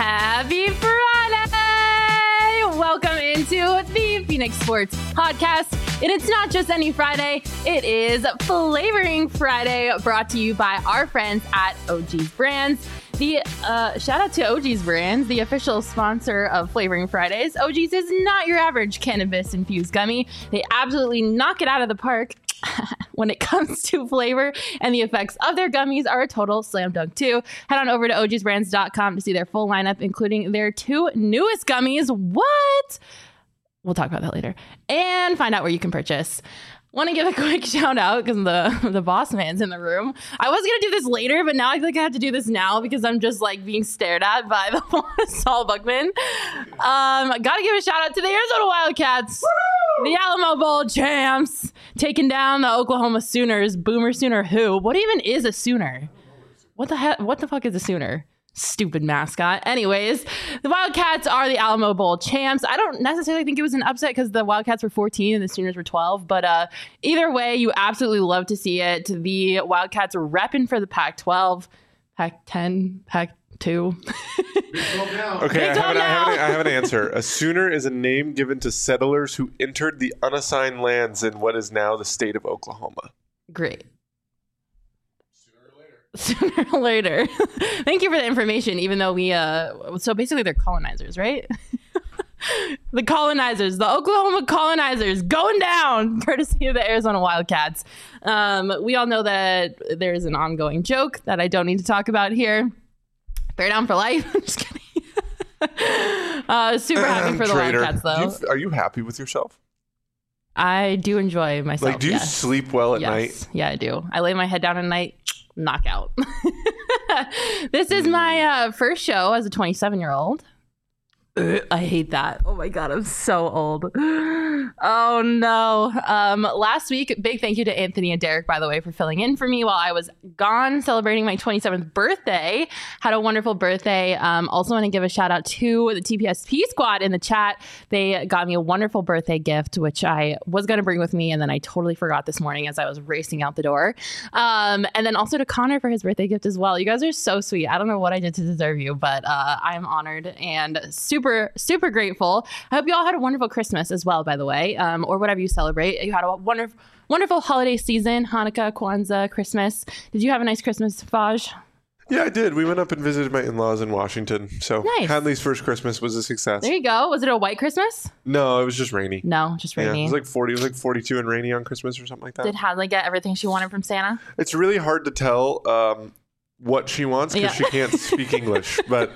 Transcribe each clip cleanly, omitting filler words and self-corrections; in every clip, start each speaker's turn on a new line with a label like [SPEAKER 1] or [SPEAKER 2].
[SPEAKER 1] Happy Friday! Welcome into the Phoenix Sports Podcast. And it's not just any Friday, it is Flavoring Friday, brought to you by our friends at OG's Brands. The shout out to OG's Brands, the official sponsor of Flavoring Fridays. OG's is not your average cannabis-infused gummy. They absolutely knock it out of the park when it comes to flavor, and the effects of their gummies are a total slam dunk too. Head on over to ogsbrands.com to see their full lineup, including their two newest gummies. What? We'll talk about that later. And find out where you can purchase. Want to give a quick shout out because the boss man's in the room. I was going to do this later, but now I feel like I have to do this now because I'm just like being stared at by the Saul Buckman. Got to give a shout out to the Arizona Wildcats. Woo! The Alamo Bowl champs taking down the Oklahoma Sooners. Boomer Sooner who? What even is a Sooner? What the heck? What the fuck is a Sooner? Stupid mascot. Anyways, the Wildcats are the Alamo Bowl champs. I don't necessarily think it was an upset because the Wildcats were 14 and the Sooners were 12. But either way, you absolutely love to see it. The Wildcats are repping for the Pac-12, Pac-10, Pac-2.
[SPEAKER 2] Okay, I have an answer. A Sooner is a name given to settlers who entered the unassigned lands in what is now the state of Oklahoma.
[SPEAKER 1] Great. Sooner or later. Thank you for the information, even though we so basically they're colonizers, right? The colonizers, the Oklahoma colonizers going down courtesy of the Arizona Wildcats. We all know that there's an ongoing joke that I don't need to talk about here. Bear down for life. I'm just kidding. Super happy for the
[SPEAKER 2] Trader,
[SPEAKER 1] Wildcats though.
[SPEAKER 2] Are you happy with yourself?
[SPEAKER 1] I do enjoy myself.
[SPEAKER 2] Like, do you sleep well at night?
[SPEAKER 1] Yeah, I do. I lay my head down at night. Knockout. This is my first show as a 27-year-old. I hate that. Oh my God, I'm so old. Oh no. Last week, big thank you to Anthony and Derek, by the way, for filling in for me while I was gone celebrating my 27th birthday. Had a wonderful birthday. Also want to give a shout out to the TPSP squad in the chat. They got me a wonderful birthday gift, which I was going to bring with me, and then I totally forgot this morning as I was racing out the door. And then also to Connor for his birthday gift as well. You guys are so sweet. I don't know what I did to deserve you, but I'm honored and super grateful. I hope you all had a wonderful Christmas as well, by the way, or whatever you celebrate. You had a wonderful holiday season, Hanukkah, Kwanzaa, Christmas. Did you have a nice Christmas, Faj?
[SPEAKER 2] Yeah, I did. We went up and visited my in-laws in Washington. So
[SPEAKER 1] nice.
[SPEAKER 2] Hadley's first Christmas was a success.
[SPEAKER 1] There you go. Was it a white Christmas?
[SPEAKER 2] No, it was just rainy.
[SPEAKER 1] No, just rainy.
[SPEAKER 2] Yeah, it was like 40. It was like 42 and rainy on Christmas or something like that.
[SPEAKER 1] Did Hadley get everything she wanted from Santa?
[SPEAKER 2] It's really hard to tell what she wants because she can't speak English, but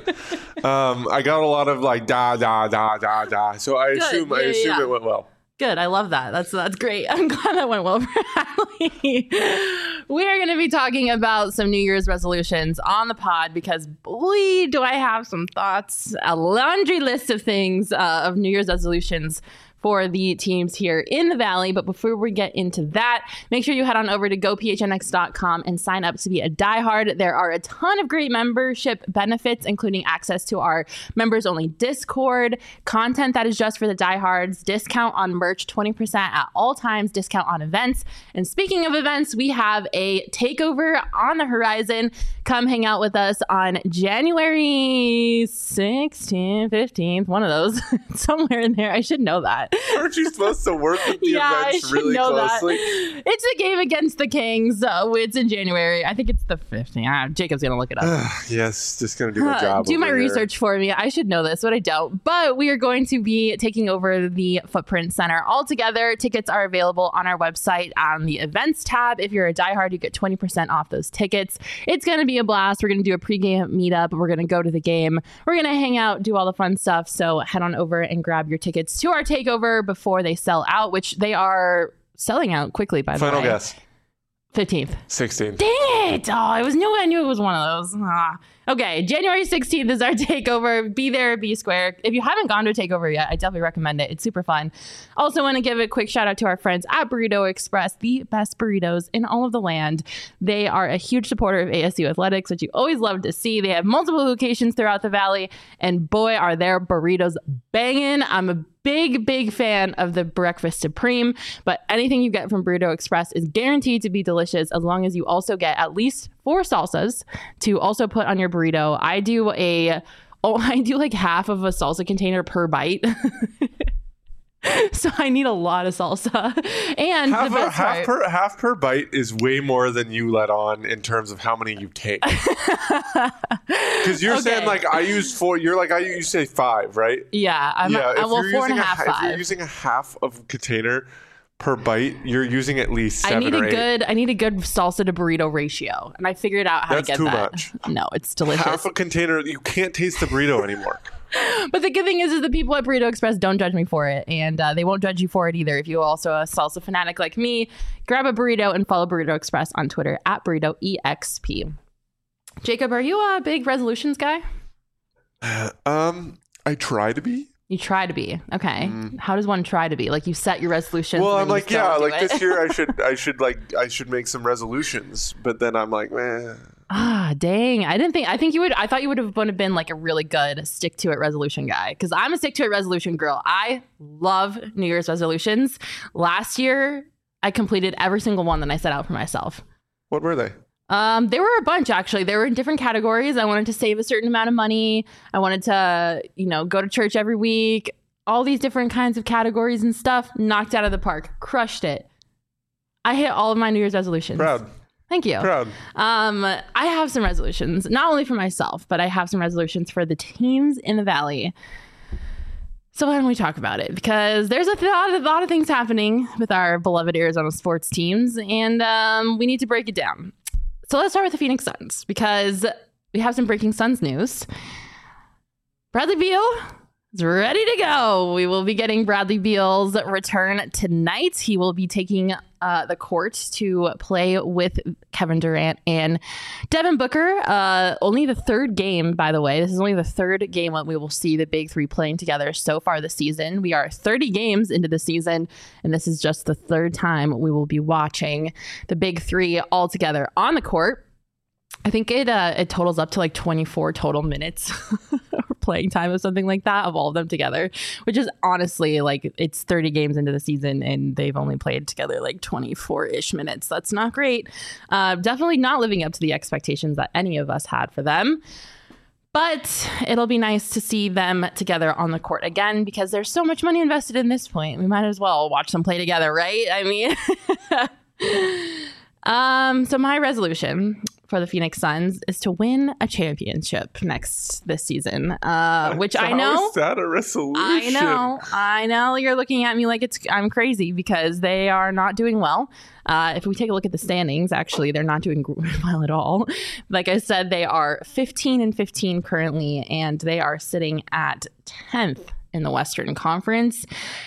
[SPEAKER 2] I got a lot of like da da da da da, so I assume it went well.
[SPEAKER 1] Good. I love that. That's great. I'm glad that went well for Hadley. We are going to be talking about some New Year's resolutions on the pod because boy, do I have some thoughts, a laundry list of things of New Year's resolutions for the teams here in the Valley. But before we get into that, make sure you head on over to gophnx.com and sign up to be a diehard. There are a ton of great membership benefits, including access to our members-only Discord, content that is just for the diehards, discount on merch, 20% at all times, discount on events. And speaking of events, we have a takeover on the horizon. Come hang out with us on January 16th, 15th, one of those, somewhere in there. I should know that.
[SPEAKER 2] Aren't you supposed to work with the events really closely?
[SPEAKER 1] That. It's a game against the Kings. It's in January. I think it's the 15th. Jacob's going to look it up.
[SPEAKER 2] Yes, just going to do my job.
[SPEAKER 1] Do my research for me. I should know this, but I don't. But we are going to be taking over the Footprint Center altogether. Tickets are available on our website on the events tab. If you're a diehard, you get 20% off those tickets. It's going to be a blast. We're going to do a pregame meetup. We're going to go to the game. We're going to hang out, do all the fun stuff. So head on over and grab your tickets to our takeover before they sell out, which they are selling out quickly, by the way.
[SPEAKER 2] Final guess.
[SPEAKER 1] 15th.
[SPEAKER 2] 16th.
[SPEAKER 1] Dang it! Oh, I knew it was one of those. Okay, January 16th is our takeover. Be there, be square. If you haven't gone to a takeover yet, I definitely recommend it. It's super fun. Also want to give a quick shout out to our friends at Burrito Express, the best burritos in all of the land. They are a huge supporter of ASU athletics, which you always love to see. They have multiple locations throughout the Valley, and boy, are their burritos banging. I'm a big fan of the breakfast supreme, but anything you get from Burrito Express is guaranteed to be delicious as long as you also get at least 4 salsas to also put on your burrito. I do a Oh, I do like half of a salsa container per bite. So I need a lot of salsa. And
[SPEAKER 2] half per bite is way more than you let on in terms of how many you take. Because you're saying like I use 4, you're like you say 5, right?
[SPEAKER 1] Yeah, I'm 4.5. 5.
[SPEAKER 2] If you're using a half of container per bite, you're using at least 7 or 8.
[SPEAKER 1] I need a good salsa to burrito ratio, and I figured out how to get that.
[SPEAKER 2] That's too much.
[SPEAKER 1] No, it's delicious.
[SPEAKER 2] Half a container, you can't taste the burrito anymore.
[SPEAKER 1] But the good thing is the people at Burrito Express don't judge me for it, and they won't judge you for it either. If you're also a salsa fanatic like me, grab a burrito and follow Burrito Express on Twitter at BurritoEXP. Jacob, are you a big resolutions guy?
[SPEAKER 2] I try to be.
[SPEAKER 1] You try to be. Okay. How does one try to be? Like you set your resolutions.
[SPEAKER 2] Well, I'm like, this year I should make some resolutions, but then I'm like, man.
[SPEAKER 1] Dang. I thought you would have been like a really good stick to it resolution guy. Cause I'm a stick to it resolution girl. I love New Year's resolutions. Last year I completed every single one that I set out for myself.
[SPEAKER 2] What were they?
[SPEAKER 1] There were a bunch, actually. They were in different categories. I wanted to save a certain amount of money. I wanted to, go to church every week. All these different kinds of categories and stuff. Knocked out of the park. Crushed it. I hit all of my New Year's resolutions.
[SPEAKER 2] Proud.
[SPEAKER 1] Thank you.
[SPEAKER 2] Proud.
[SPEAKER 1] I have some resolutions, not only for myself, but I have some resolutions for the teams in the Valley. So why don't we talk about it? Because there's a lot of things happening with our beloved Arizona sports teams, and we need to break it down. So let's start with the Phoenix Suns, because we have some breaking Suns news. Bradley Beal is ready to go. We will be getting Bradley Beal's return tonight. He will be taking the court to play with Kevin Durant and Devin Booker. Only the third game, by the way. This is only the third game that we will see the big three playing together so far this season. We are 30 games into the season, and this is just the third time we will be watching the big three all together on the court. I think it totals up to like 24 total minutes playing time or something like that of all of them together, which is honestly like it's 30 games into the season and they've only played together like 24-ish minutes. That's not great. Definitely not living up to the expectations that any of us had for them. But it'll be nice to see them together on the court again because there's so much money invested in this point. We might as well watch them play together, right? I mean, so my resolution for the Phoenix Suns is to win a championship this season, which I know.
[SPEAKER 2] How is that a resolution?
[SPEAKER 1] I know. You're looking at me like I'm crazy because they are not doing well. If we take a look at the standings, actually, they're not doing well at all. Like I said, they are 15-15 currently, and they are sitting at 10th in the Western Conference.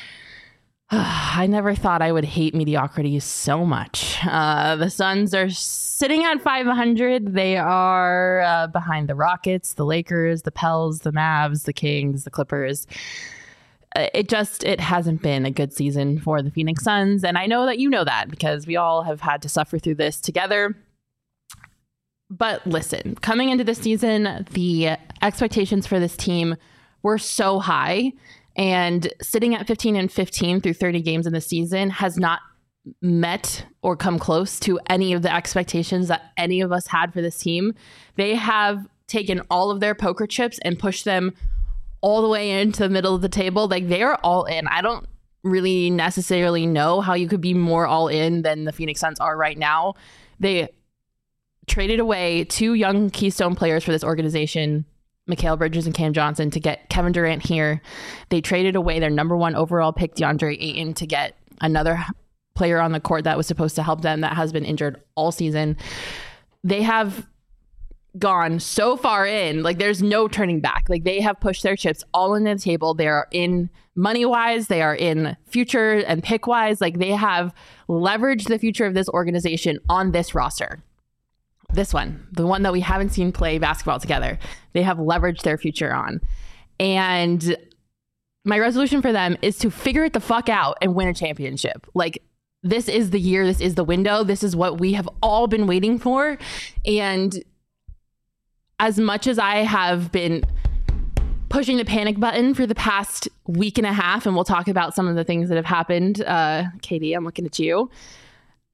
[SPEAKER 1] I never thought I would hate mediocrity so much. The Suns are sitting at 500. They are behind the Rockets, the Lakers, the Pels, the Mavs, the Kings, the Clippers. It hasn't been a good season for the Phoenix Suns. And I know that you know that because we all have had to suffer through this together. But listen, coming into this season, the expectations for this team were so high. And sitting at 15-15 through 30 games in the season has not met or come close to any of the expectations that any of us had for this team. They have taken all of their poker chips and pushed them all the way into the middle of the table. Like they are all in. I don't really necessarily know how you could be more all in than the Phoenix Suns are right now. They traded away 2 young keystone players for this organization, Mikal Bridges and Cam Johnson, to get Kevin Durant here. They traded away their number 1 overall pick, DeAndre Ayton, to get another player on the court that was supposed to help them that has been injured all season. They have gone so far in, like there's no turning back. Like they have pushed their chips all into the table. They are in money-wise, they are in future and pick-wise. Like they have leveraged the future of this organization on this roster. This one, the one that we haven't seen play basketball together, they have leveraged their future on. And my resolution for them is to figure it the fuck out and win a championship. Like, this is the year, this is the window, this is what we have all been waiting for. And as much as I have been pushing the panic button for the past week and a half, and we'll talk about some of the things that have happened, Katie, I'm looking at you.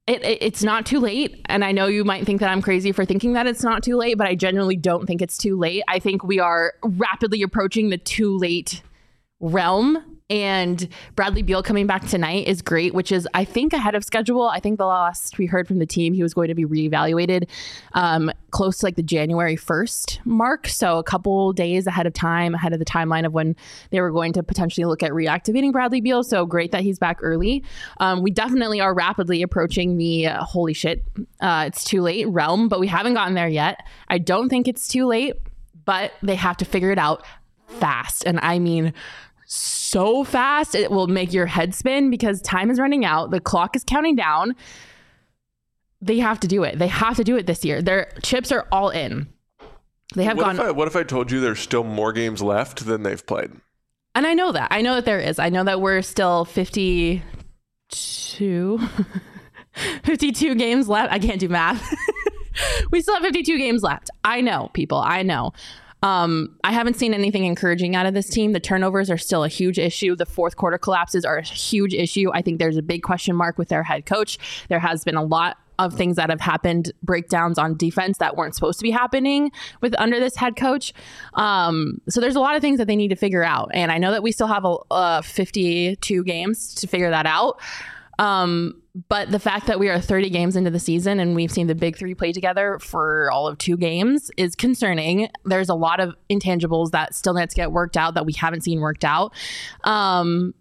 [SPEAKER 1] It's not too late. And I know you might think that I'm crazy for thinking that it's not too late, but I genuinely don't think it's too late. I think we are rapidly approaching the too late realm. And Bradley Beal coming back tonight is great, which is, I think, ahead of schedule. I think the last we heard from the team, he was going to be reevaluated close to like the January 1st mark. So a couple days ahead of the timeline of when they were going to potentially look at reactivating Bradley Beal. So great that he's back early. We definitely are rapidly approaching the holy shit, it's too late realm, but we haven't gotten there yet. I don't think it's too late, but they have to figure it out fast. And I mean, so fast it will make your head spin because time is running out. The clock is counting down. They have to do it. They have to do it this year. Their chips are all in. They have
[SPEAKER 2] What if I told you there's still more games left than they've played?
[SPEAKER 1] And I know that. I know that there is. I know that we're still 52 games left. I can't do math. We still have 52 games left. I know, people. I know. I haven't seen anything encouraging out of this team. The turnovers are still a huge issue. The fourth quarter collapses are a huge issue. I think there's a big question mark with their head coach. There has been a lot of things that have happened, breakdowns on defense that weren't supposed to be happening under this head coach. So there's a lot of things that they need to figure out. And I know that we still have 52 games to figure that out. But the fact that we are 30 games into the season and we've seen the big three play together for all of 2 games is concerning. There's a lot of intangibles that still need to get worked out that we haven't seen worked out. And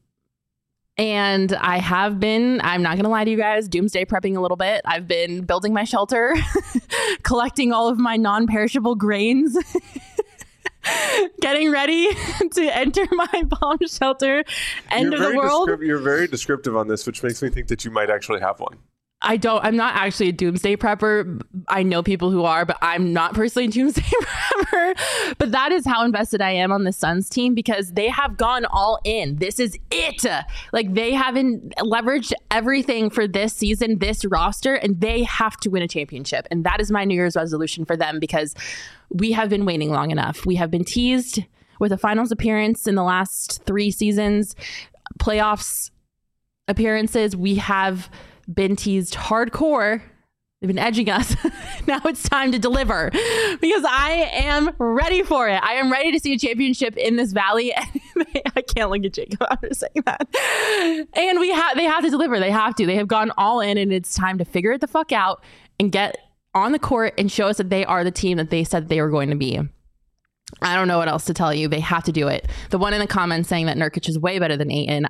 [SPEAKER 1] I'm not going to lie to you guys, doomsday prepping a little bit. I've been building my shelter, collecting all of my non-perishable grains. Getting ready to enter my bomb shelter end of the world.
[SPEAKER 2] You're very descriptive on this, which makes me think that you might actually have one.
[SPEAKER 1] I'm not actually a doomsday prepper. I know people who are, but I'm not personally a doomsday prepper. But that is how invested I am on the Suns team because they have gone all in. This is it. Like they haven't leveraged everything for this season, this roster, and they have to win a championship. And that is my New Year's resolution for them because we have been waiting long enough. We have been teased with a finals appearance in the last 3 seasons, playoffs appearances. We have been teased hardcore. They've been edging us. Now it's time to deliver because I am ready for it. I am ready to see a championship in this valley. I can't look at Jacob after saying that. And they have to deliver. They have to. They have gone all in and it's time to figure it the fuck out and get on the court and show us that they are the team that they said they were going to be. I don't know what else to tell you. They have to do it. The one in the comments saying that Nurkic is way better than Ayton.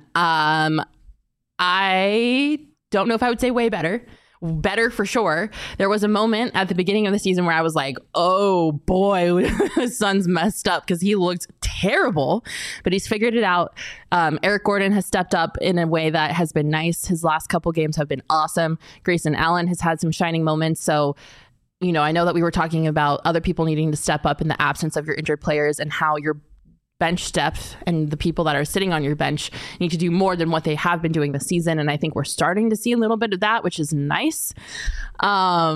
[SPEAKER 1] I don't know if I would say way better. Better for sure. There was a moment at the beginning of the season where I was like, oh boy, the Suns messed up because he looked terrible, but he's figured it out. Eric Gordon has stepped up in a way that has been nice. His last couple games have been awesome. Grayson Allen has had some shining moments. So, I know that we were talking about other people needing to step up in the absence of your injured players and how your bench depth and the people that are sitting on your bench need to do more than what they have been doing this season. And I think we're starting to see a little bit of that, which is nice. Mac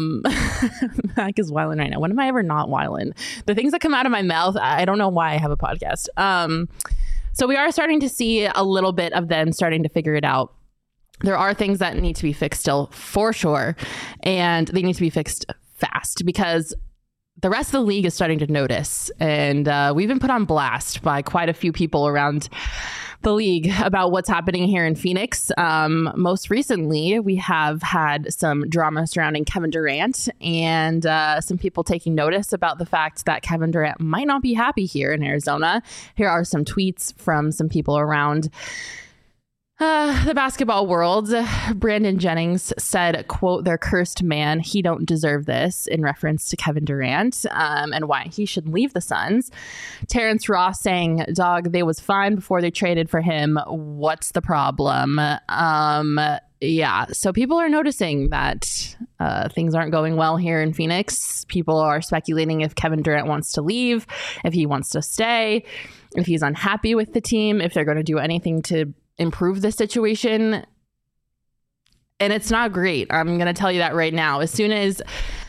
[SPEAKER 1] is wilding right now. When am I ever not wilding? The things that come out of my mouth, I don't know why I have a podcast. So we are starting to see a little bit of them starting to figure it out. There are things that need to be fixed still for sure. And they need to be fixed fast because the rest of the league is starting to notice, and we've been put on blast by quite a few people around the league about what's happening here in Phoenix. Most recently, we have had some drama surrounding Kevin Durant and some people taking notice about the fact that Kevin Durant might not be happy here in Arizona. Here are some tweets from some people around the basketball world. Brandon Jennings said, quote, "They're cursed man. He don't deserve this," in reference to Kevin Durant and why he should leave the Suns. Terrence Ross saying, "Dog, they was fine before they traded for him. What's the problem?" Yeah, so people are noticing that things aren't going well here in Phoenix. People are speculating if Kevin Durant wants to leave, if he wants to stay, if he's unhappy with the team, if they're going to do anything to improve the situation. And it's not great. I'm going to tell you that right now. As soon as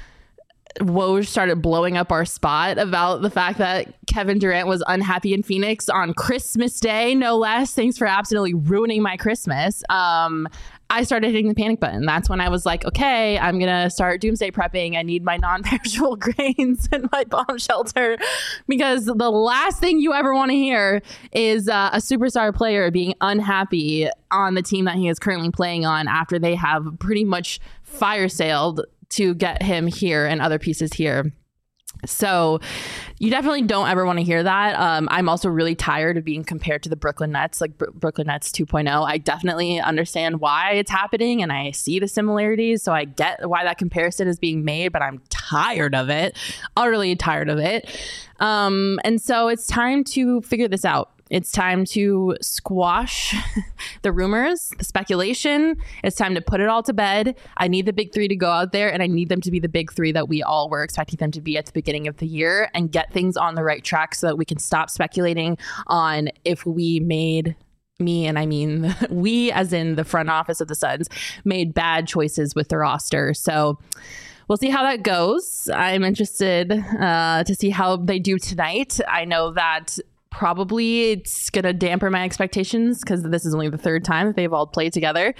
[SPEAKER 1] Woj started blowing up our spot about the fact that Kevin Durant was unhappy in Phoenix on Christmas Day, no less. Thanks for absolutely ruining my Christmas. I started hitting the panic button. That's when I was like, okay, I'm going to start doomsday prepping. I need my non-perishable grains and my bomb shelter, because the last thing you ever want to hear is a superstar player being unhappy on the team that he is currently playing on after they have pretty much fire sailed to get him here and other pieces here. So you definitely don't ever want to hear that. I'm also really tired of being compared to the Brooklyn Nets, like Brooklyn Nets 2.0. I definitely understand why it's happening and I see the similarities. So I get why that comparison is being made, but I'm tired of it, utterly tired of it. And so it's time to figure this out. It's time to squash the rumors, the speculation. It's time to put it all to bed. I need the big three to go out there, and I need them to be the big three that we all were expecting them to be at the beginning of the year, and get things on the right track so that we can stop speculating on if we made and I mean we, as in the front office of the Suns, made bad choices with the roster. So we'll see how that goes. I'm interested to see how they do tonight. I know that probably it's going to dampen my expectations because this is only the third time that they've all played together.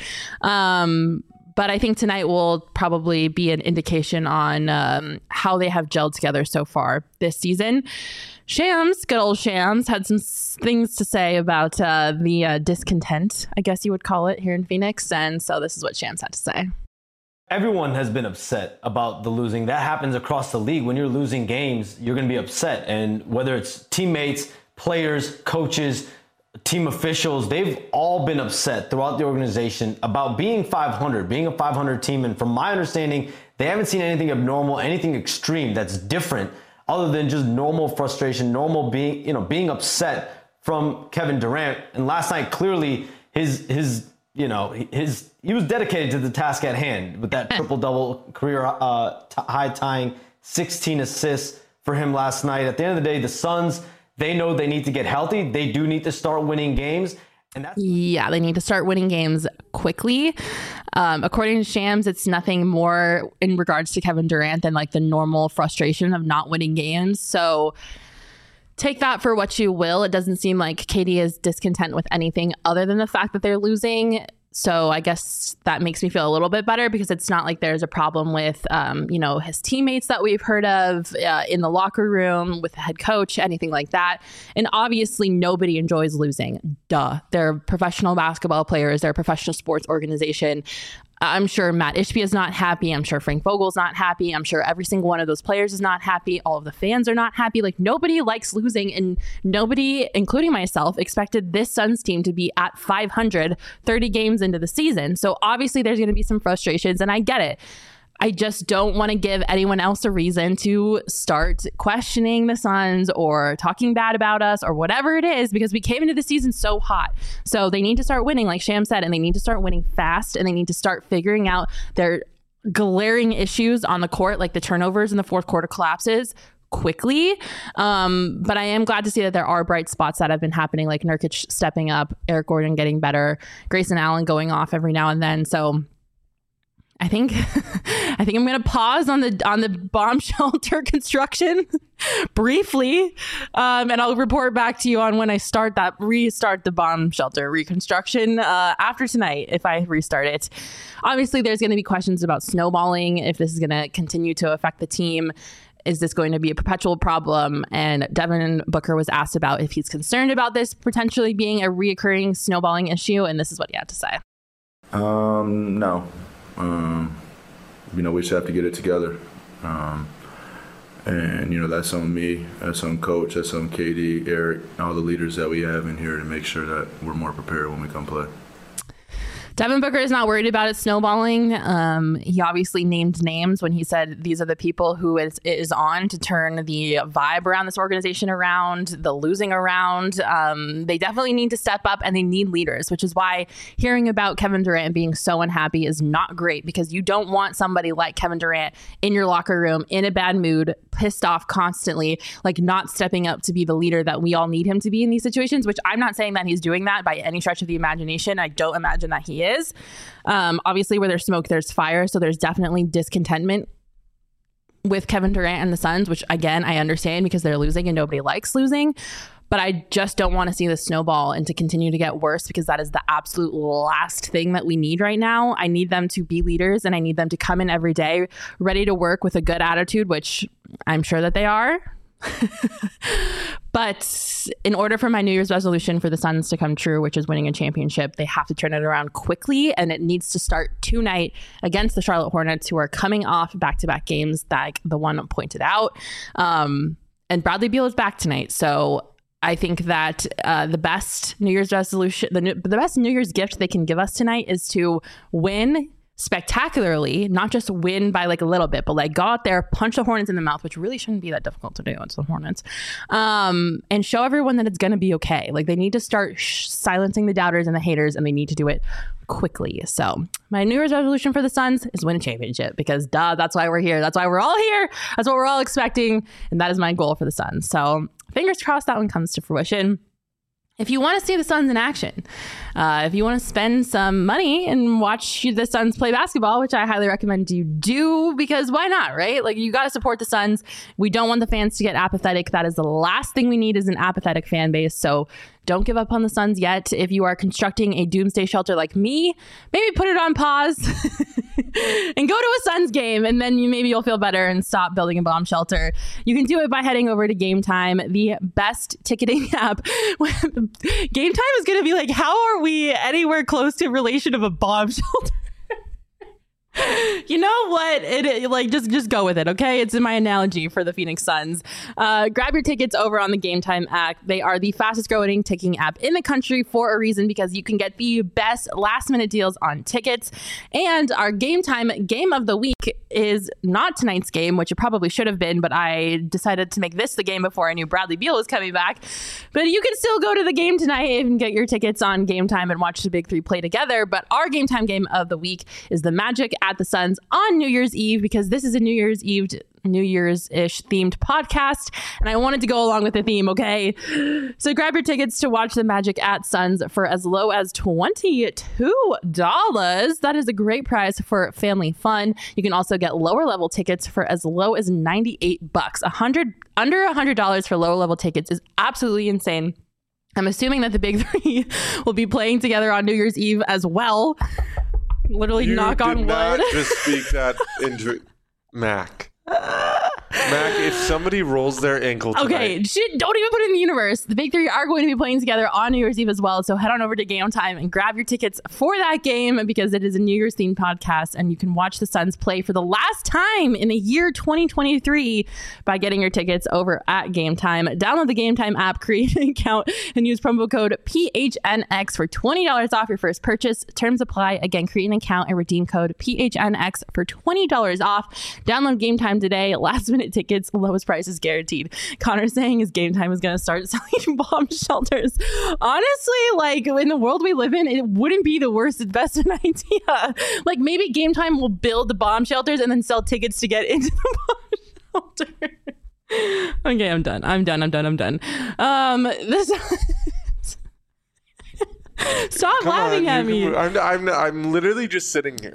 [SPEAKER 1] But I think tonight will probably be an indication on how they have gelled together so far this season. Shams, good old Shams, had some things to say about the discontent, I guess you would call it, here in Phoenix. And so this is what Shams had to say.
[SPEAKER 3] Everyone has been upset about the losing. That happens across the league. When you're losing games, you're going to be upset. And whether it's teammates, players, coaches, team officials, they've all been upset throughout the organization about being 500, being a 500 team. And from my understanding, they haven't seen anything abnormal, anything extreme that's different other than just normal frustration, normal being upset from Kevin Durant. And last night, clearly he was dedicated to the task at hand with that triple-double career high tying 16 assists for him last night. At the end of the day, the Suns, they know they need to get healthy. They do need to start winning games.
[SPEAKER 1] Yeah, they need to start winning games quickly. According to Shams, it's nothing more in regards to Kevin Durant than like the normal frustration of not winning games. So take that for what you will. It doesn't seem like KD is discontent with anything other than the fact that they're losing. So I guess that makes me feel a little bit better, because it's not like there's a problem with, his teammates that we've heard of in the locker room with the head coach, anything like that. And obviously nobody enjoys losing. Duh. They're professional basketball players. They're a professional sports organization. I'm sure Matt Ishbia is not happy. I'm sure Frank Vogel's not happy. I'm sure every single one of those players is not happy. All of the fans are not happy. Like, nobody likes losing, and nobody, including myself, expected this Suns team to be at 500 30 games into the season. So obviously there's going to be some frustrations, and I get it. I just don't want to give anyone else a reason to start questioning the Suns or talking bad about us or whatever it is, because we came into the season so hot. So they need to start winning, like Sham said, and they need to start winning fast, and they need to start figuring out their glaring issues on the court, like the turnovers in the fourth quarter collapses, quickly. But I am glad to see that there are bright spots that have been happening, like Nurkic stepping up, Eric Gordon getting better, Grayson Allen going off every now and then. So I think I'm going to pause on the bomb shelter construction briefly, and I'll report back to you on when I restart the bomb shelter reconstruction after tonight, if I restart it. Obviously, there's going to be questions about snowballing, if this is going to continue to affect the team. Is this going to be a perpetual problem? And Devin Booker was asked about if he's concerned about this potentially being a reoccurring snowballing issue, and this is what he had to say.
[SPEAKER 4] No. We just have to get it together. And, that's on me, that's on Coach, that's on KD, Eric, all the leaders that we have in here to make sure that we're more prepared when we come play.
[SPEAKER 1] Devin Booker is not worried about it snowballing. He obviously named names when he said these are the people who it is on to turn the vibe around this organization around, the losing around. They definitely need to step up, and they need leaders, which is why hearing about Kevin Durant being so unhappy is not great, because you don't want somebody like Kevin Durant in your locker room in a bad mood, pissed off constantly, like not stepping up to be the leader that we all need him to be in these situations, which I'm not saying that he's doing that by any stretch of the imagination. I don't imagine that he is. Obviously, where there's smoke, there's fire. So there's definitely discontentment with Kevin Durant and the Suns, which again, I understand, because they're losing and nobody likes losing. But I just don't want to see the snowball and to continue to get worse, because that is the absolute last thing that we need right now. I need them to be leaders, and I need them to come in every day ready to work with a good attitude, which I'm sure that they are. But in order for my New Year's resolution for the Suns to come true, which is winning a championship, they have to turn it around quickly, and it needs to start tonight against the Charlotte Hornets, who are coming off back-to-back games that the one pointed out. And Bradley Beal is back tonight, so I think that the best New Year's resolution, the best New Year's gift they can give us tonight is to win spectacularly, not just win by like a little bit, but like go out there, punch the Hornets in the mouth, which really shouldn't be that difficult to do. It's the Hornets, and show everyone that it's going to be okay. Like they need to start silencing the doubters and the haters, and they need to do it quickly. So my New Year's resolution for the Suns is win a championship, because that's why we're here. That's why we're all here. That's what we're all expecting, and that is my goal for the Suns. So fingers crossed that one comes to fruition. If you want to see the Suns in action, if you want to spend some money and watch the Suns play basketball, which I highly recommend you do, because why not, right? Like, you got to support the Suns. We don't want the fans to get apathetic. That is the last thing we need, is an apathetic fan base. So don't give up on the Suns yet. If you are constructing a doomsday shelter like me, maybe put it on pause and go to a Suns game, and then you'll feel better and stop building a bomb shelter. You can do it by heading over to Game Time, the best ticketing app. Game Time is going to be like, how are we anywhere close to relation of a bomb shelter? You know what? Just go with it, okay? It's in my analogy for the Phoenix Suns. Grab your tickets over on the Game Time app. They are the fastest growing ticketing app in the country for a reason, because you can get the best last minute deals on tickets. And our Game Time game of the week is not tonight's game, which it probably should have been, but I decided to make this the game before I knew Bradley Beal was coming back. But you can still go to the game tonight and get your tickets on Game Time and watch the Big Three play together. But our Game Time game of the week is the Magic at the Suns on New Year's Eve, because this is a New Year's-ish themed podcast, and I wanted to go along with the theme, okay? So grab your tickets to watch the Magic at Suns for as low as $22. That is a great price for family fun. You can also get lower level tickets for as low as $98. Under $100 for lower level tickets is absolutely insane. I'm assuming that the Big Three will be playing together on New Year's Eve as well. Literally, knock on wood.
[SPEAKER 2] Not just speak that into Mac. Mac, if somebody rolls their ankle tonight.
[SPEAKER 1] Okay, don't even put it in the universe. The Big Three are going to be playing together on New Year's Eve as well. So head on over to Game Time and grab your tickets for that game, because it is a New Year's themed podcast, and you can watch the Suns play for the last time in the year 2023 by getting your tickets over at Game Time. Download the Game Time app, create an account, and use promo code PHNX for $20 off your first purchase. Terms apply. Again, create an account and redeem code PHNX for $20 off. Download Game Time today. Last minute tickets, lowest prices guaranteed. Connor's saying his Game Time is going to start selling bomb shelters. Honestly, like, in the world we live in, it wouldn't be the worst investment idea. Like, maybe Game Time will build the bomb shelters and then sell tickets to get into the bomb shelter. Okay, I'm done. Stop laughing at me.
[SPEAKER 2] I'm literally just sitting here.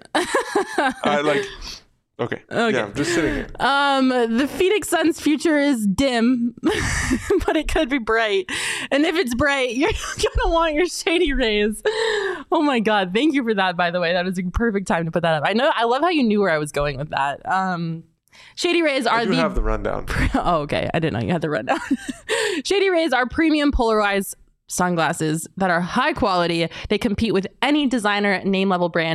[SPEAKER 2] Okay. Yeah, I'm just sitting here.
[SPEAKER 1] The Phoenix Suns' future is dim, but it could be bright. And if it's bright, you're gonna want your Shady Rays. Oh my God! Thank you for that. By the way, that was a perfect time to put that up. I love how you knew where I was going with that. Shady Rays are
[SPEAKER 2] have the rundown.
[SPEAKER 1] Oh, okay. I didn't know you had the rundown. Shady Rays are premium polarized sunglasses that are high quality. They compete with any designer name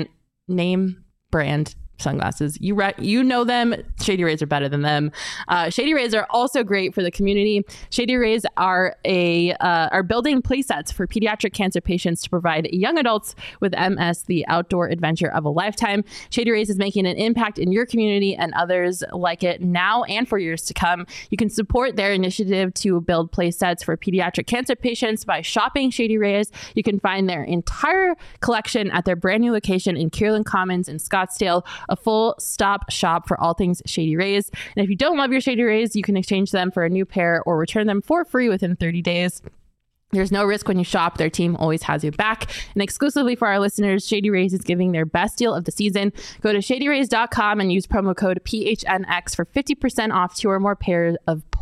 [SPEAKER 1] brand sunglasses. You know them. Shady Rays are better than them. Shady Rays are also great for the community. Shady Rays are building play sets for pediatric cancer patients to provide young adults with MS the outdoor adventure of a lifetime. Shady Rays is making an impact in your community and others like it now and for years to come. You can support their initiative to build play sets for pediatric cancer patients by shopping Shady Rays. You can find their entire collection at their brand new location in Kierland Commons in Scottsdale, a full stop shop for all things Shady Rays. And if you don't love your Shady Rays, you can exchange them for a new pair or return them for free within 30 days. There's no risk when you shop. Their team always has you back. And exclusively for our listeners, Shady Rays is giving their best deal of the season. Go to shadyrays.com and use promo code PHNX for 50% off 2 or more pairs of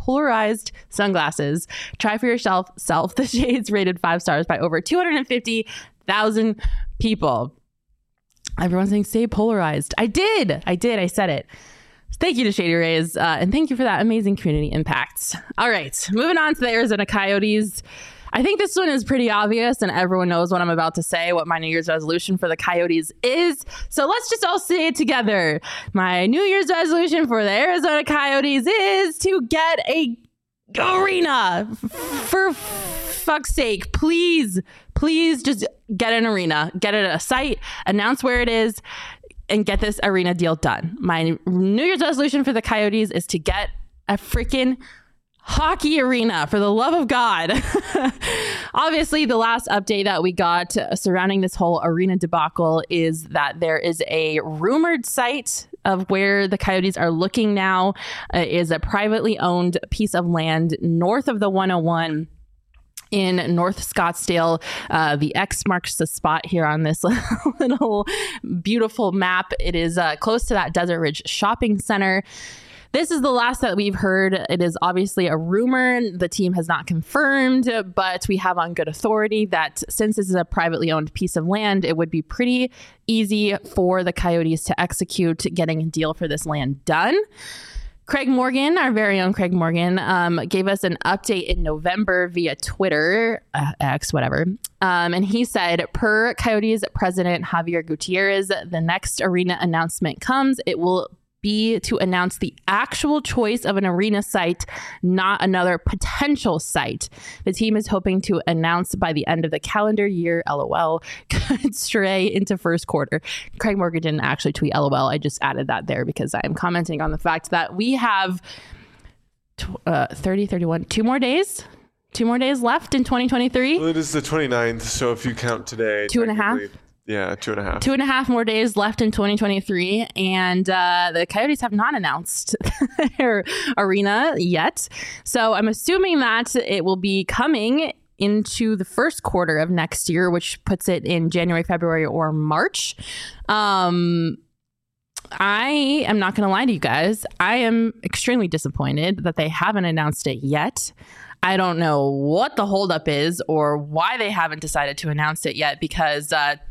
[SPEAKER 1] polarized sunglasses. Try for yourself. The shades rated 5 stars by over 250,000 people. Everyone's saying stay polarized. I did. I said it. Thank you to Shady Rays, and thank you for that amazing community impact. All right, moving on to the Arizona Coyotes. I think this one is pretty obvious, and everyone knows what I'm about to say, what my New Year's resolution for the Coyotes is. So let's just all say it together. My New Year's resolution for the Arizona Coyotes is to get a arena. For fuck's sake, please just get an arena. Get it at a site, announce where it is, and get this arena deal done. My New Year's resolution for the Coyotes is to get a freaking hockey arena, for the love of God. Obviously, the last update that we got surrounding this whole arena debacle is that there is a rumored site of where the Coyotes are looking now. Is a privately owned piece of land north of the 101 in North Scottsdale. The X marks the spot here on this little beautiful map. It is close to that Desert Ridge Shopping Center. This is the last that we've heard. It is obviously a rumor. The team has not confirmed, but we have on good authority that since this is a privately owned piece of land, it would be pretty easy for the Coyotes to execute getting a deal for this land done. Craig Morgan, our very own Craig Morgan, gave us an update in November via Twitter, X, whatever. And he said, per Coyotes president Javier Gutierrez, the next arena announcement comes. It will be to announce the actual choice of an arena site, not another potential site. The team is hoping to announce by the end of the calendar year. LOL. Could stray into first quarter. Craig Morgan didn't actually tweet LOL. I just added that there because I'm commenting on the fact that we have 31, 2 more days left in 2023.
[SPEAKER 2] Well, it is the 29th, so if you count today,
[SPEAKER 1] 2.5.
[SPEAKER 2] Yeah, 2.5.
[SPEAKER 1] 2.5 more days left in 2023, and the Coyotes have not announced their arena yet. So I'm assuming that it will be coming into the first quarter of next year, which puts it in January, February, or March. I am not going to lie to you guys. I am extremely disappointed that they haven't announced it yet. I don't know what the holdup is or why they haven't decided to announce it yet, because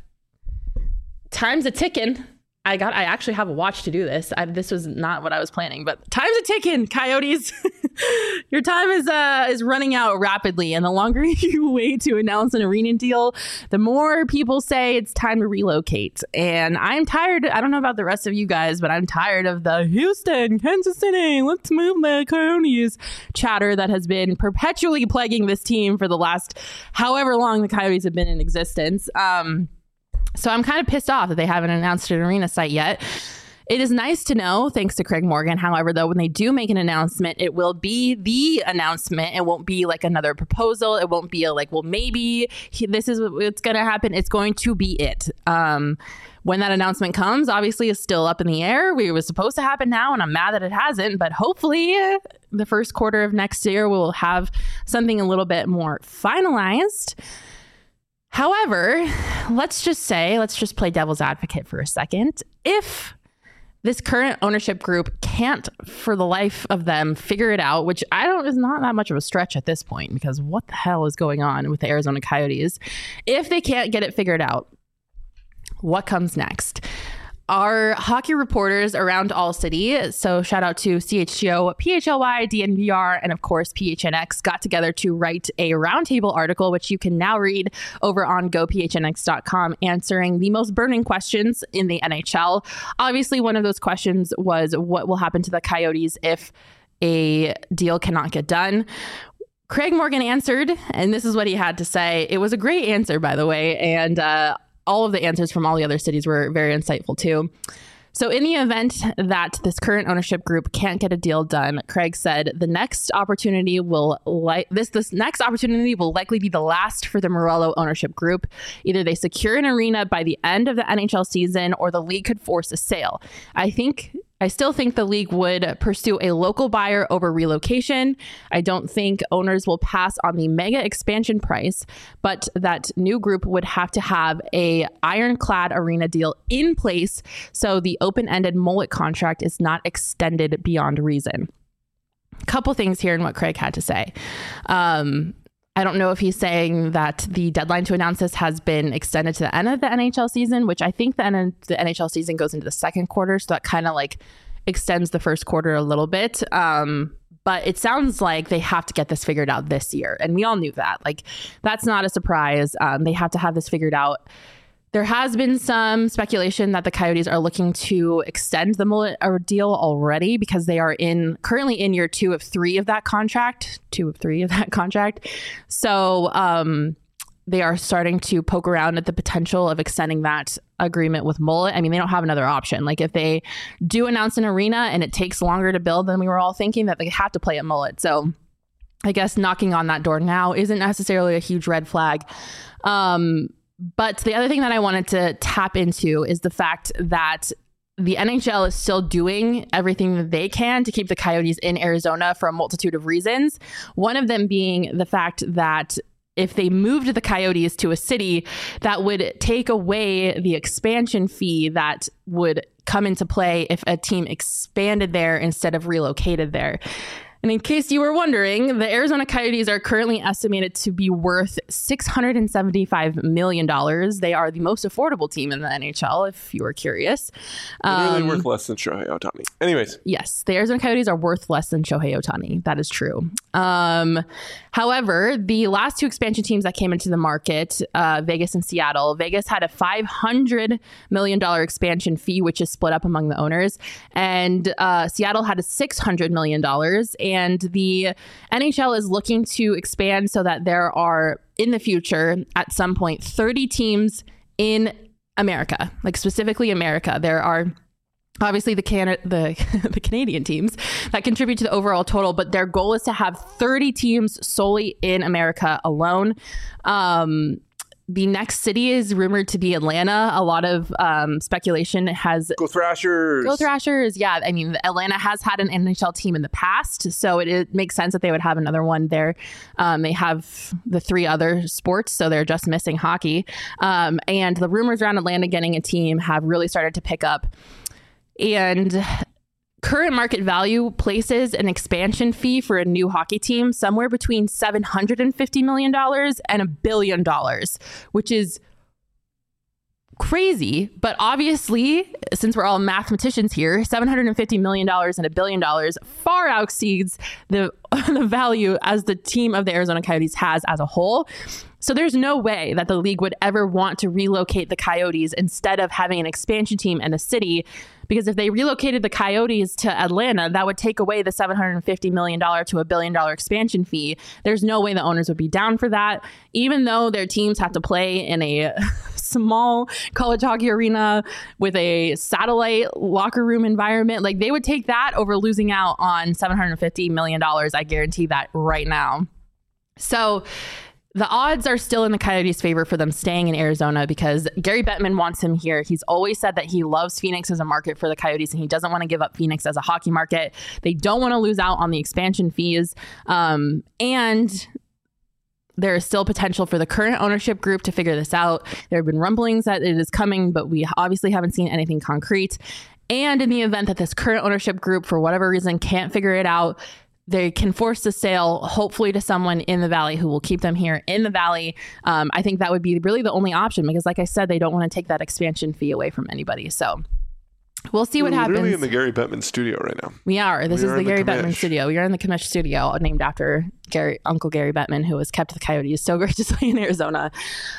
[SPEAKER 1] time's a ticking. I actually have a watch to do this. This was not what I was planning, but time's a ticking, Coyotes. Your time is running out rapidly, and the longer you wait to announce an arena deal, the more people say it's time to relocate. And I'm tired. I don't know about the rest of you guys, but I'm tired of the Houston, Kansas City, let's move the Coyotes chatter that has been perpetually plaguing this team for the last however long the Coyotes have been in existence. So I'm kind of pissed off that they haven't announced an arena site yet. It is nice to know, thanks to Craig Morgan. However, though, when they do make an announcement, it will be the announcement. It won't be like another proposal. It won't be a like, well, maybe this is what's going to happen. It's going to be it. When that announcement comes, obviously, is still up in the air. It was supposed to happen now, and I'm mad that it hasn't. But hopefully, the first quarter of next year, we'll have something a little bit more finalized. However, let's just play devil's advocate for a second. If this current ownership group can't, for the life of them, figure it out, which is not that much of a stretch at this point, because what the hell is going on with the Arizona Coyotes? If they can't get it figured out, what comes next? Our hockey reporters around All City, so shout out to CHGO, PHLY, DNVR, and of course PHNX, got together to write a roundtable article, which you can now read over on gophnx.com, answering the most burning questions in the NHL. Obviously, one of those questions was what will happen to the Coyotes if a deal cannot get done. Craig Morgan answered, and this is what he had to say. It was a great answer, by the way, and all of the answers from all the other cities were very insightful too. So in the event that this current ownership group can't get a deal done, Craig said the next opportunity will this next opportunity will likely be the last for the Morello ownership group. Either they secure an arena by the end of the NHL season, or the league could force a sale. I still think the league would pursue a local buyer over relocation. I don't think owners will pass on the mega expansion price, but that new group would have to have a ironclad arena deal in place so the open-ended mullet contract is not extended beyond reason. couple things here in what Craig had to say. I don't know if he's saying that the deadline to announce this has been extended to the end of the NHL season, which I think the end of the NHL season goes into the second quarter. So that kind of like extends the first quarter a little bit. But it sounds like they have to get this figured out this year. And we all knew that. Like, that's not a surprise. They have to have this figured out. There has been some speculation that the Coyotes are looking to extend the Mullet deal already because they are currently in year 2 of 3 of that contract. So they are starting to poke around at the potential of extending that agreement with Mullet. I mean, they don't have another option. Like, if they do announce an arena and it takes longer to build than we were all thinking, that they have to play at Mullet. So I guess knocking on that door now isn't necessarily a huge red flag. But the other thing that I wanted to tap into is the fact that the NHL is still doing everything that they can to keep the Coyotes in Arizona for a multitude of reasons. One of them being the fact that if they moved the Coyotes to a city, that would take away the expansion fee that would come into play if a team expanded there instead of relocated there. And in case you were wondering, the Arizona Coyotes are currently estimated to be worth $675 million. They are the most affordable team in the NHL, if you were curious.
[SPEAKER 2] Literally worth less than Shohei Ohtani. Anyways.
[SPEAKER 1] Yes, the Arizona Coyotes are worth less than Shohei Ohtani. That is true. However, the last 2 expansion teams that came into the market, Vegas and Seattle, Vegas had a $500 million expansion fee, which is split up among the owners. And Seattle had a $600 million. And the NHL is looking to expand so that there are, in the future, at some point, 30 teams in America, like specifically America. There are obviously the Canadian teams that contribute to the overall total, but their goal is to have 30 teams solely in America alone. The next city is rumored to be Atlanta. A lot of speculation has...
[SPEAKER 2] Go Thrashers!
[SPEAKER 1] Go Thrashers, yeah. I mean, Atlanta has had an NHL team in the past, so it makes sense that they would have another one there. They have the 3 other sports, so they're just missing hockey. And the rumors around Atlanta getting a team have really started to pick up. And current market value places an expansion fee for a new hockey team somewhere between $750 million and $1 billion, which is crazy. But obviously, since we're all mathematicians here, $750 million and $1 billion far exceeds the value as the team of the Arizona Coyotes has as a whole. So there's no way that the league would ever want to relocate the Coyotes instead of having an expansion team in a city, because if they relocated the Coyotes to Atlanta, that would take away the $750 million to $1 billion expansion fee. There's no way the owners would be down for that, even though their teams have to play in a small college hockey arena with a satellite locker room environment. Like, they would take that over losing out on $750 million. I guarantee that right now. So the odds are still in the Coyotes' favor for them staying in Arizona because Gary Bettman wants him here. He's always said that he loves Phoenix as a market for the Coyotes and he doesn't want to give up Phoenix as a hockey market. They don't want to lose out on the expansion fees. And there is still potential for the current ownership group to figure this out. There have been rumblings that it is coming, but we obviously haven't seen anything concrete. And in the event that this current ownership group, for whatever reason, can't figure it out, they can force the sale, hopefully to someone in the Valley who will keep them here in the Valley. I think that would be really the only option because, like I said, they don't want to take that expansion fee away from anybody. So we'll see what happens.
[SPEAKER 2] We're really in the Gary Bettman studio right now.
[SPEAKER 1] We are. This is the Gary Bettman studio. We are in the Commish studio, named after Uncle Gary Bettman, who has kept the Coyotes so graciously in Arizona.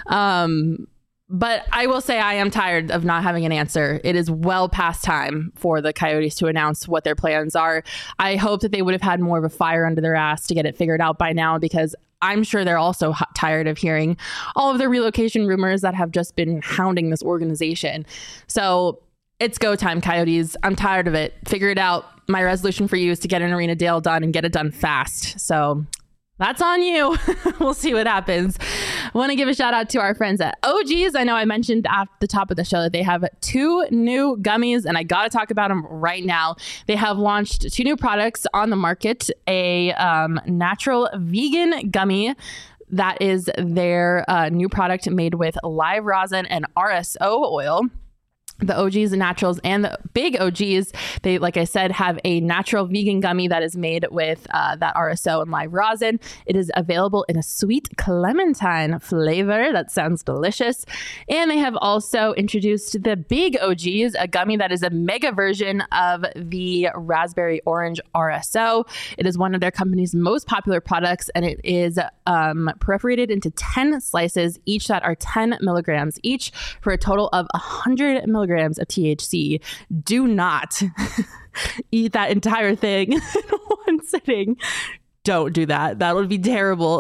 [SPEAKER 1] But I will say I am tired of not having an answer. It is well past time for the Coyotes to announce what their plans are. I hope that they would have had more of a fire under their ass to get it figured out by now, because I'm sure they're also tired of hearing all of the relocation rumors that have just been hounding this organization. So it's go time, Coyotes. I'm tired of it. Figure it out. My resolution for you is to get an arena deal done and get it done fast. So that's on you. We'll see what happens. I want to give a shout out to our friends at OG's. I know I mentioned at the top of the show that they have 2 new gummies, and I got to talk about them right now. They have launched 2 new products on the market, a natural vegan gummy. That is their new product made with live rosin and RSO oil. The OGs, the naturals, and the big OGs, they, like I said, have a natural vegan gummy that is made with that RSO and live rosin. It is available in a sweet clementine flavor. That sounds delicious. And they have also introduced the big OGs, a gummy that is a mega version of the raspberry orange RSO. It is one of their company's most popular products, and it is perforated into 10 slices, each that are 10 milligrams each, for a total of 100 milligrams of THC. Do not eat that entire thing in one sitting. Don't do that. That would be terrible.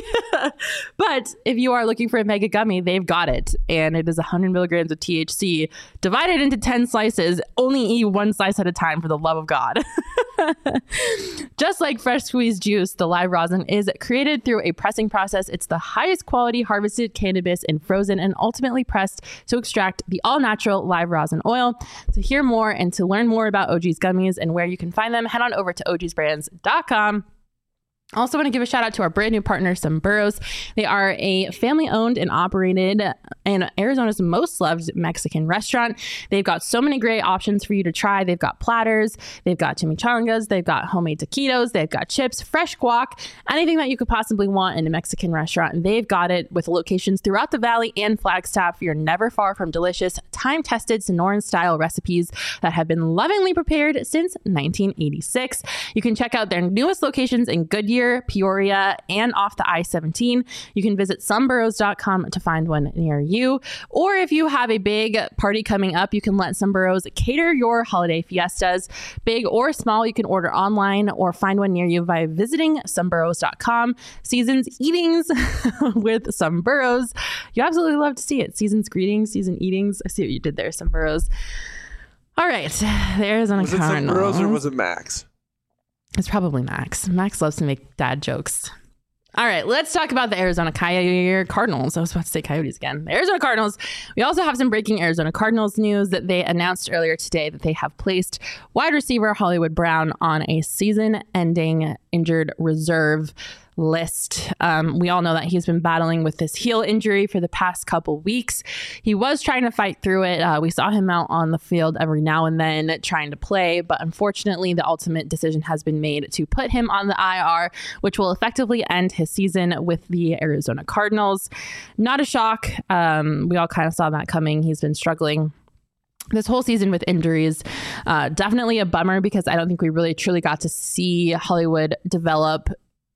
[SPEAKER 1] But if you are looking for a mega gummy, they've got it. And it is 100 milligrams of THC divided into 10 slices. Only eat one slice at a time, for the love of God. Just like fresh squeezed juice, the live rosin is created through a pressing process. It's the highest quality harvested cannabis and frozen and ultimately pressed to extract the all-natural live rosin oil. To hear more and to learn more about OG's gummies and where you can find them, head on over to ogsbrands.com. Also want to give a shout out to our brand new partner, Sombreros. They are a family owned and operated and Arizona's most loved Mexican restaurant. They've got so many great options for you to try. They've got platters, they've got chimichangas, they've got homemade taquitos, they've got chips, fresh guac, anything that you could possibly want in a Mexican restaurant. They've got it with locations throughout the Valley and Flagstaff. You're never far from delicious, time-tested Sonoran style recipes that have been lovingly prepared since 1986. You can check out their newest locations in Goodyear, Peoria, and off the I-17. You can visit Sombreros.com to find one near you. Or if you have a big party coming up, you can let Sombreros cater your holiday fiestas. Big or small, you can order online or find one near you by visiting Sombreros.com. Season's eatings with Sombreros. You absolutely love to see it. Season's greetings, season eatings. I see what you did there, Sombreros. All right, the Arizona Cardinals.
[SPEAKER 2] Was it Sombreros or was it Max?
[SPEAKER 1] It's probably Max. Max loves to make dad jokes. All right, let's talk about the Arizona Cardinals. I was about to say Coyotes again. The Arizona Cardinals. We also have some breaking Arizona Cardinals news that they announced earlier today that they have placed wide receiver Hollywood Brown on a season-ending injured reserve list. We all know that he's been battling with this heel injury for the past couple weeks. He was trying to fight through it. We saw him out on the field every now and then trying to play, but unfortunately the ultimate decision has been made to put him on the IR, which will effectively end his season with the Arizona Cardinals. Not a shock. We all kind of saw that coming. He's been struggling this whole season with injuries. Definitely a bummer because I don't think we really truly got to see Hollywood develop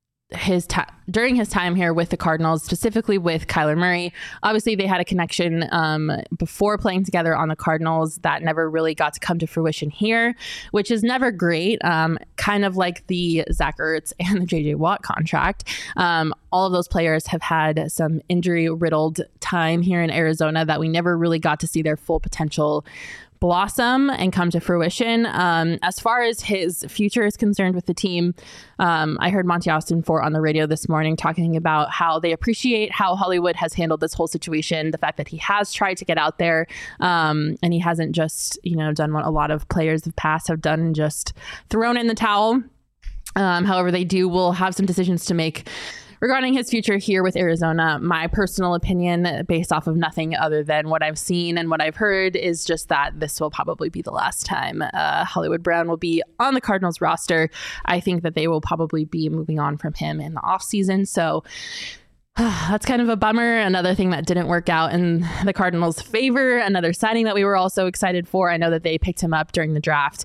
[SPEAKER 1] during his time here with the Cardinals, specifically with Kyler Murray. Obviously, they had a connection before playing together on the Cardinals that never really got to come to fruition here, which is never great. Kind of like the Zach Ertz and the JJ Watt contract. All of those players have had some injury-riddled time here in Arizona that we never really got to see their full potential blossom and come to fruition. As far as his future is concerned with the team, I heard Monty Austin on the radio this morning talking about how they appreciate how Hollywood has handled this whole situation, the fact that he has tried to get out there and he hasn't just, done what a lot of players of past have done and just thrown in the towel. However, they will have some decisions to make regarding his future here with Arizona. My personal opinion, based off of nothing other than what I've seen and what I've heard, is just that this will probably be the last time Hollywood Brown will be on the Cardinals roster. I think that they will probably be moving on from him in the offseason. So that's kind of a bummer. Another thing that didn't work out in the Cardinals' favor. Another signing that we were also excited for. I know that they picked him up during the draft.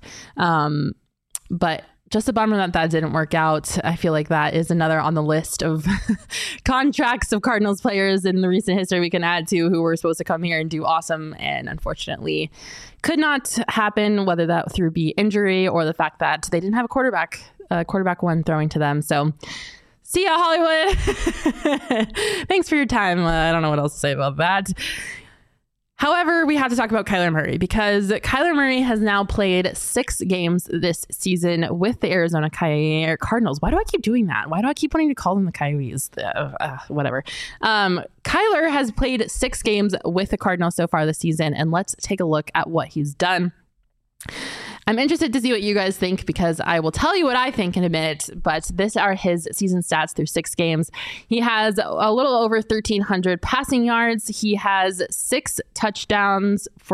[SPEAKER 1] But just a bummer that didn't work out. I feel like that is another on the list of contracts of Cardinals players in the recent history we can add to who were supposed to come here and do awesome and unfortunately could not happen, whether that through injury or the fact that they didn't have a quarterback one throwing to them. So see ya, Hollywood. Thanks for your time. I don't know what else to say about that. However, we have to talk about Kyler Murray because Kyler Murray has now played 6 games this season with the Arizona Cardinals. Why do I keep doing that? Why do I keep wanting to call them the Coyotes? Whatever. Kyler has played 6 games with the Cardinals so far this season, and let's take a look at what he's done. I'm interested to see what you guys think because I will tell you what I think in a minute, but these are his season stats through 6 games. He has a little over 1,300 passing yards. He has 6 touchdowns for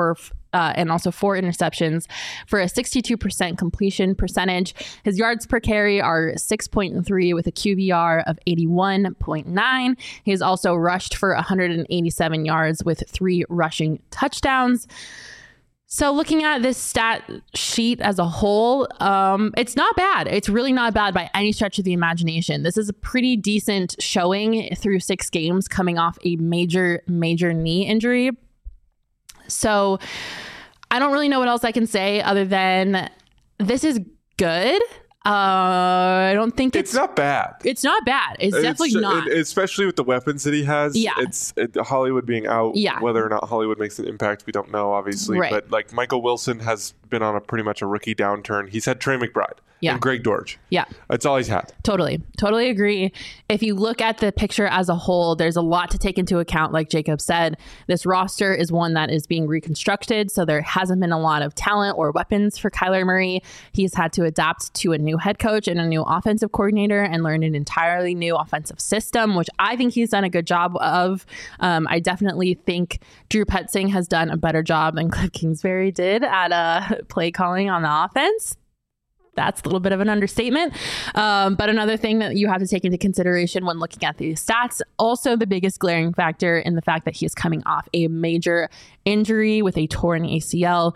[SPEAKER 1] and also 4 interceptions for a 62% completion percentage. His yards per carry are 6.3 with a QBR of 81.9. He has also rushed for 187 yards with 3 rushing touchdowns. So looking at this stat sheet as a whole, it's not bad. It's really not bad by any stretch of the imagination. This is a pretty decent showing through 6 games coming off a major knee injury. So I don't really know what else I can say other than this is good. I don't think
[SPEAKER 2] it's not bad.
[SPEAKER 1] It's not bad. It's definitely not.
[SPEAKER 2] Especially with the weapons that he has.
[SPEAKER 1] Yeah.
[SPEAKER 2] Hollywood being out.
[SPEAKER 1] Yeah.
[SPEAKER 2] Whether or not Hollywood makes an impact, we don't know, obviously.
[SPEAKER 1] Right.
[SPEAKER 2] But like Michael Wilson has been on pretty much a rookie downturn. He's had Trey McBride.
[SPEAKER 1] Yeah.
[SPEAKER 2] And Greg Dortch.
[SPEAKER 1] Yeah.
[SPEAKER 2] That's all he's had.
[SPEAKER 1] Totally agree. If you look at the picture as a whole, there's a lot to take into account. Like Jacob said, this roster is one that is being reconstructed. So there hasn't been a lot of talent or weapons for Kyler Murray. He's had to adapt to a new head coach and a new offensive coordinator and learn an entirely new offensive system, which I think he's done a good job of. I definitely think Drew Petzing has done a better job than Cliff Kingsbury did at play calling on the offense. That's a little bit of an understatement. But another thing that you have to take into consideration when looking at these stats, also the biggest glaring factor in the fact that he is coming off a major injury with a torn ACL.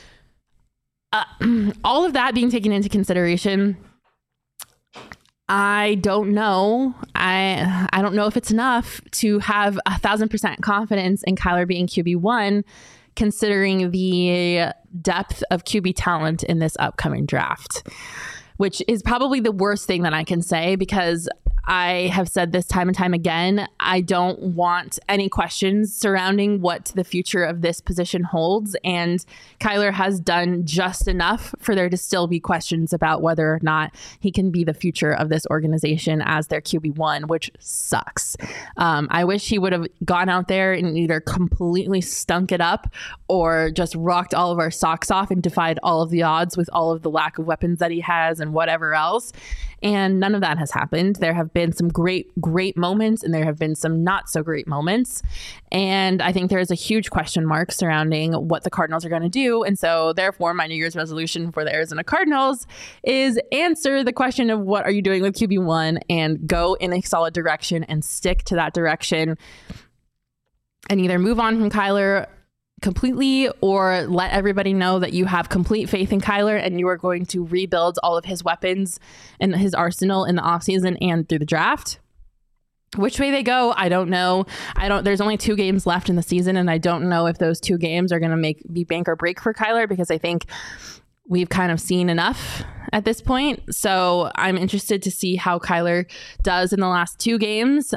[SPEAKER 1] All of that being taken into consideration, I don't know. I don't know if it's enough to have 1,000% confidence in Kyler being QB1, considering the depth of QB talent in this upcoming draft, which is probably the worst thing that I can say, because I have said this time and time again. I don't want any questions surrounding what the future of this position holds. And Kyler has done just enough for there to still be questions about whether or not he can be the future of this organization as their QB1, which sucks. I wish he would have gone out there and either completely stunk it up or just rocked all of our socks off and defied all of the odds with all of the lack of weapons that he has and whatever else. And none of that has happened. There have been some great moments, and there have been some not so great moments. And I think there is a huge question mark surrounding what the Cardinals are going to do. And so therefore, my New Year's resolution for the Arizona Cardinals is answer the question of what are you doing with QB1 and go in a solid direction and stick to that direction and either move on from Kyler completely or let everybody know that you have complete faith in Kyler and you are going to rebuild all of his weapons and his arsenal in the offseason and through the draft. Which way they go, I don't know. There's only 2 games left in the season, and I don't know if those 2 games are going to be bank or break for Kyler, because I think we've kind of seen enough at this point. So I'm interested to see how Kyler does in the last 2 games.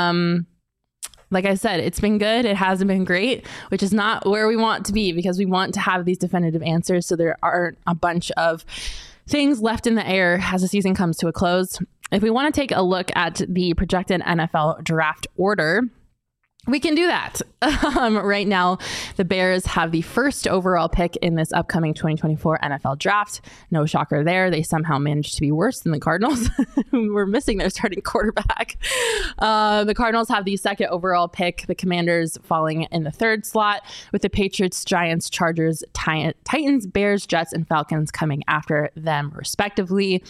[SPEAKER 1] Like I said, it's been good. It hasn't been great, which is not where we want to be, because we want to have these definitive answers so there aren't a bunch of things left in the air as the season comes to a close. If we want to take a look at the projected NFL draft order, we can do that. Right now, the Bears have the first overall pick in this upcoming 2024 NFL draft. No shocker there. They somehow managed to be worse than the Cardinals, who were missing their starting quarterback. The Cardinals have the second overall pick, the Commanders falling in the 3rd slot, with the Patriots, Giants, Chargers, Titans, Bears, Jets, and Falcons coming after them, respectively.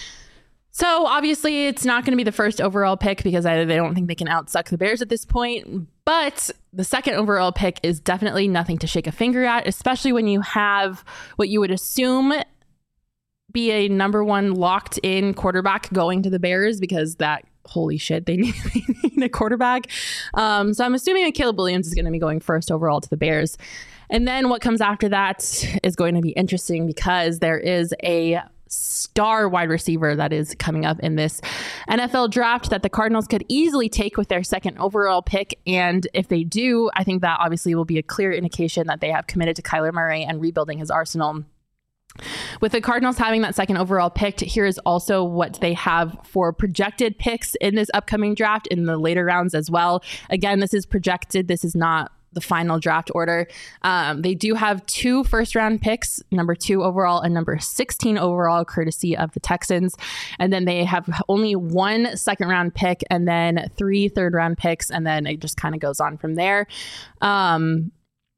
[SPEAKER 1] So obviously it's not going to be the first overall pick, because they don't think they can outsuck the Bears at this point. But the second overall pick is definitely nothing to shake a finger at, especially when you have what you would assume be a number 1 locked in quarterback going to the Bears, because that, holy shit, they need a quarterback. So I'm assuming that Caleb Williams is going to be going first overall to the Bears. And then what comes after that is going to be interesting, because there is a star wide receiver that is coming up in this NFL draft that the Cardinals could easily take with their second overall pick. And if they do, I think that obviously will be a clear indication that they have committed to Kyler Murray and rebuilding his arsenal. With the Cardinals having that second overall pick, here is also what they have for projected picks in this upcoming draft in the later rounds as well. Again, this is projected. This is not the final draft order. They do have 2 first-round picks, number 2 overall and number 16 overall, courtesy of the Texans. And then they have only 1 second-round pick and then 3 third-round picks, and then it just kind of goes on from there.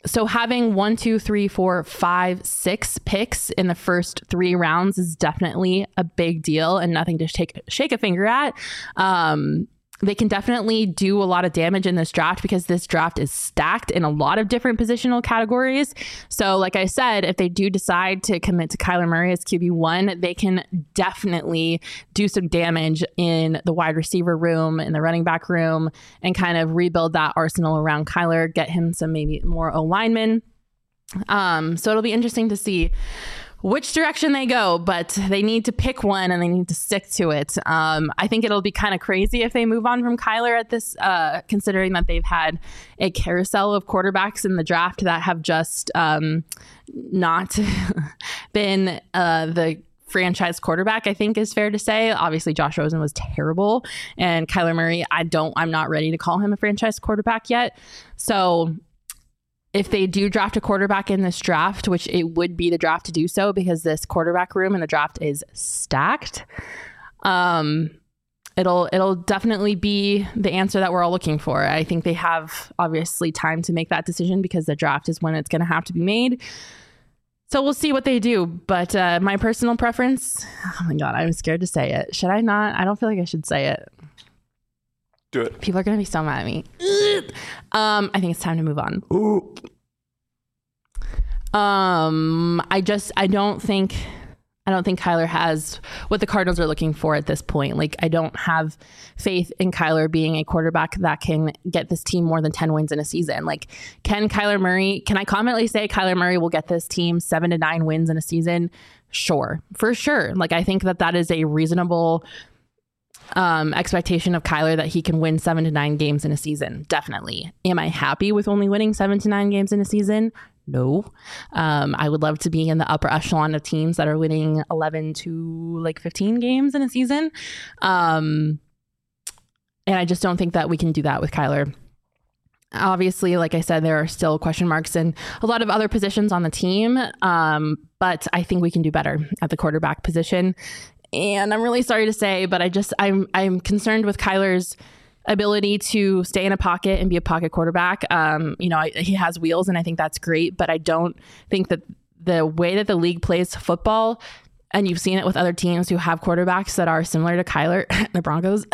[SPEAKER 1] So having 1, 2, 3, 4, 5, 6 picks in the first 3 rounds is definitely a big deal and nothing to shake a finger at. They can definitely do a lot of damage in this draft because this draft is stacked in a lot of different positional categories. So like I said, if they do decide to commit to Kyler Murray as QB1, they can definitely do some damage in the wide receiver room, in the running back room, and kind of rebuild that arsenal around Kyler, get him some maybe more O-linemen. So it'll be interesting to see which direction they go, but they need to pick one and they need to stick to it. I think it'll be kind of crazy if they move on from Kyler at this, considering that they've had a carousel of quarterbacks in the draft that have just not been the franchise quarterback, I think is fair to say. Obviously, Josh Rosen was terrible, and Kyler Murray, I'm not ready to call him a franchise quarterback yet. So if they do draft a quarterback in this draft, which it would be the draft to do so because this quarterback room in the draft is stacked, it'll definitely be the answer that we're all looking for. I think they have obviously time to make that decision because the draft is when it's going to have to be made. So we'll see what they do. But my personal preference, oh my God, I'm scared to say it. Should I not? I don't feel like I should say it.
[SPEAKER 2] Do it.
[SPEAKER 1] People are going to be so mad at me. I think it's time to move on.
[SPEAKER 2] Ooh.
[SPEAKER 1] I don't think Kyler has what the Cardinals are looking for at this point. Like, I don't have faith in Kyler being a quarterback that can get this team more than 10 wins in a season. Like, can I confidently say Kyler Murray will get this team 7 to 9 wins in a season? Sure, for sure. Like, I think that is a reasonable expectation of Kyler, that he can win 7 to 9 games in a season. Definitely. Am I happy with only winning 7 to 9 games in a season? No. I would love to be in the upper echelon of teams that are winning 11 to 15 games in a season. And I just don't think that we can do that with Kyler. Obviously, like I said, there are still question marks in a lot of other positions on the team. But I think we can do better at the quarterback position. And I'm really sorry to say, but I'm concerned with Kyler's ability to stay in a pocket and be a pocket quarterback. He has wheels and I think that's great, but I don't think that the way that the league plays football, and you've seen it with other teams who have quarterbacks that are similar to Kyler, the Broncos,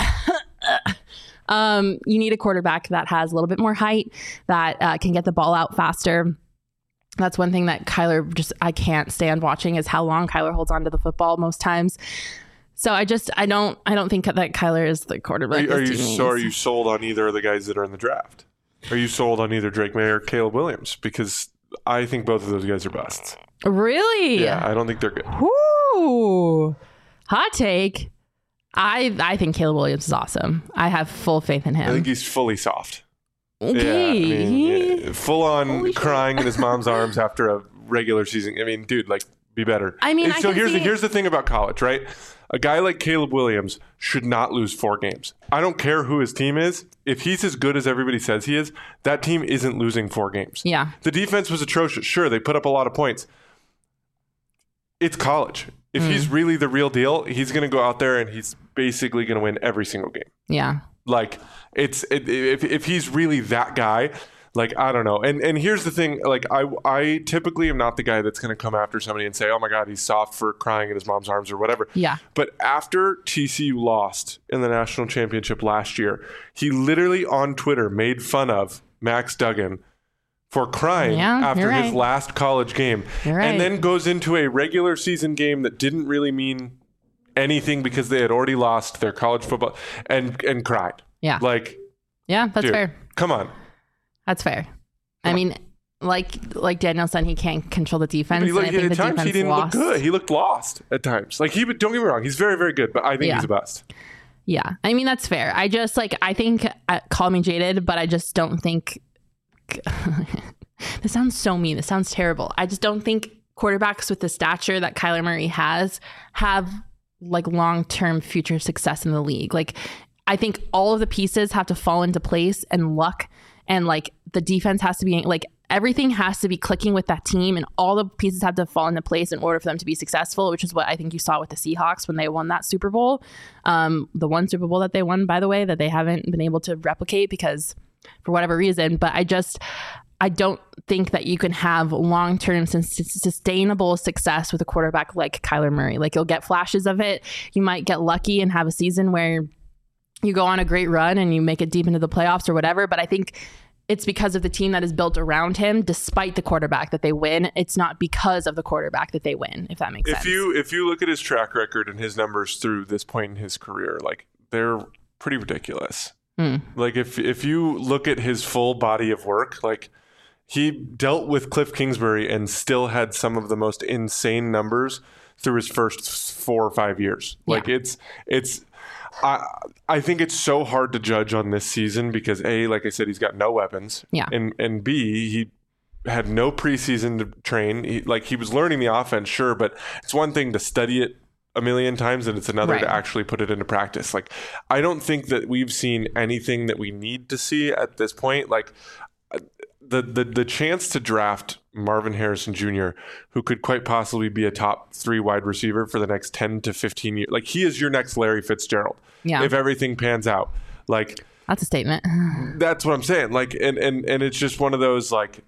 [SPEAKER 1] you need a quarterback that has a little bit more height, that can get the ball out faster. That's one thing that Kyler I can't stand watching, is how long Kyler holds onto the football most times. So I don't think that Kyler is the quarterback.
[SPEAKER 2] Are you sold on either of the guys that are in the draft? Are you sold on either Drake May or Caleb Williams? Because I think both of those guys are busts.
[SPEAKER 1] Really?
[SPEAKER 2] Yeah, I don't think they're good.
[SPEAKER 1] Ooh, hot take. I think Caleb Williams is awesome. I have full faith in him.
[SPEAKER 2] I think he's fully soft.
[SPEAKER 1] Okay.
[SPEAKER 2] Yeah, full on crying in his mom's arms after a regular season. I mean, dude, be better.
[SPEAKER 1] I mean,
[SPEAKER 2] so here's the thing about college, right? A guy like Caleb Williams should not lose 4 games. I don't care who his team is. If he's as good as everybody says he is, that team isn't losing 4 games.
[SPEAKER 1] Yeah.
[SPEAKER 2] The defense was atrocious. Sure, they put up a lot of points. It's college. If he's really the real deal, he's going to go out there and he's basically going to win every single game.
[SPEAKER 1] Yeah.
[SPEAKER 2] If he's really that guy, I don't know. And here's the thing, I typically am not the guy that's going to come after somebody and say, oh my God, he's soft for crying in his mom's arms or whatever.
[SPEAKER 1] Yeah.
[SPEAKER 2] But after TCU lost in the national championship last year, he literally on Twitter made fun of Max Duggan for crying after his last college game. And then goes into a regular season game that didn't really mean anything because they had already lost their college football and cried.
[SPEAKER 1] Yeah. Yeah, that's fair.
[SPEAKER 2] Come on.
[SPEAKER 1] That's fair. I mean, like Daniel said, he can't control the defense.
[SPEAKER 2] But at times he didn't look good. He looked lost at times. Don't get me wrong, he's very, very good, but I think he's a bust.
[SPEAKER 1] Yeah. I mean, that's fair. I just I think, call me jaded, but I just don't think this sounds so mean. This sounds terrible. I just don't think quarterbacks with the stature that Kyler Murray have long-term future success in the league. I think all of the pieces have to fall into place, and luck and the defense has to be everything has to be clicking with that team, and all the pieces have to fall into place in order for them to be successful, which is what I think you saw with the Seahawks when they won that Super Bowl. The one Super Bowl that they won, by the way, that they haven't been able to replicate because for whatever reason. But I don't think that you can have long-term sustainable success with a quarterback like Kyler Murray. Like, you'll get flashes of it. You might get lucky and have a season where you go on a great run and you make it deep into the playoffs or whatever. But I think it's because of the team that is built around him, despite the quarterback, that they win. It's not because of the quarterback that they win, if that makes sense.
[SPEAKER 2] If you look at his track record and his numbers through this point in his career, like, they're pretty ridiculous. Like, if you look at his full body of work, like, he dealt with Cliff Kingsbury and still had some of the most insane numbers through his first 4 or 5 years. Like, I think it's so hard to judge on this season because A, like I said, he's got no weapons.
[SPEAKER 1] Yeah.
[SPEAKER 2] And B, he had no preseason to train. He was learning the offense, sure, but it's one thing to study it a million times and it's another to actually put it into practice. Like, I don't think that we've seen anything that we need to see at this point. Like, the chance to draft Marvin Harrison Jr., who could quite possibly be a top 3 wide receiver for the next 10 to 15 years. Like, he is your next Larry Fitzgerald. Yeah. If everything pans out. Like,
[SPEAKER 1] that's a statement.
[SPEAKER 2] That's what I'm saying. Like, and it's just one of those, like,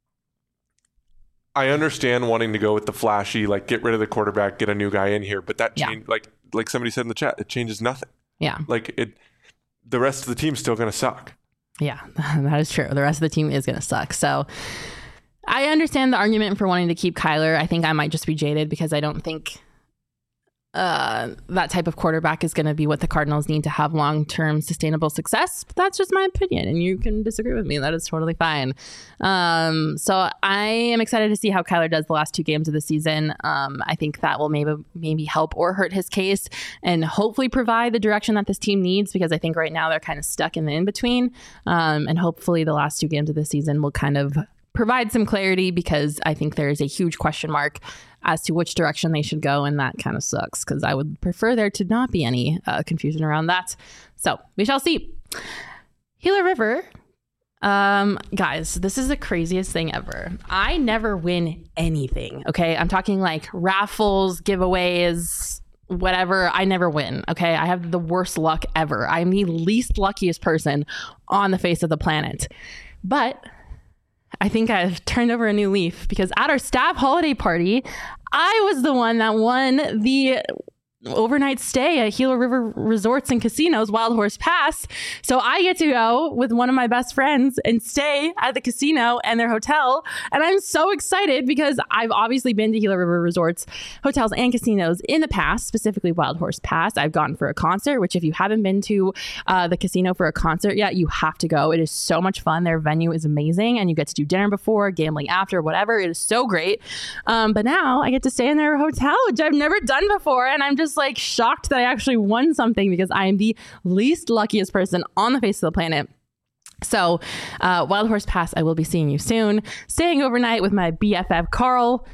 [SPEAKER 2] I understand wanting to go with the flashy, like, get rid of the quarterback, get a new guy in here, but that change, like somebody said in the chat, it changes nothing.
[SPEAKER 1] Yeah.
[SPEAKER 2] Like, the rest of the team's still going to suck. Yeah,
[SPEAKER 1] that is true. The rest of the team is going to suck. So I understand the argument for wanting to keep Kyler. I think I might just be jaded because I don't think that type of quarterback is going to be what the Cardinals need to have long-term sustainable success. But that's just my opinion, and you can disagree with me. That is totally fine. So I am excited to see how Kyler does the last 2 games of the season. I think that will maybe help or hurt his case and hopefully provide the direction that this team needs, because I think right now they're kind of stuck in the in-between. And hopefully the last 2 games of the season will kind of provide some clarity, because I think there is a huge question mark as to which direction they should go, and that kind of sucks because I would prefer there to not be any confusion around that. So we shall see. Gila River, guys, this is the craziest thing ever. I never win anything, okay? I'm talking like raffles, giveaways, whatever. I never win, okay? I have the worst luck ever. I'm the least luckiest person on the face of the planet. But I think I've turned over a new leaf, because at our staff holiday party, I was the one that won the overnight stay at Gila River Resorts and Casinos Wild Horse Pass. So I get to go with one of my best friends and stay at the casino and their hotel. And I'm so excited because I've obviously been to Gila River Resorts, hotels, and casinos in the past, specifically Wild Horse Pass. I've gone for a concert, which if you haven't been to the casino for a concert yet, you have to go. It is so much fun. Their venue is amazing, and you get to do dinner before, gambling after, whatever. It is so great. But now I get to stay in their hotel, which I've never done before. And I'm just like shocked that I actually won something, because I am the least luckiest person on the face of the planet. So Wild Horse Pass, I will be seeing you soon. Staying overnight with my BFF Carl.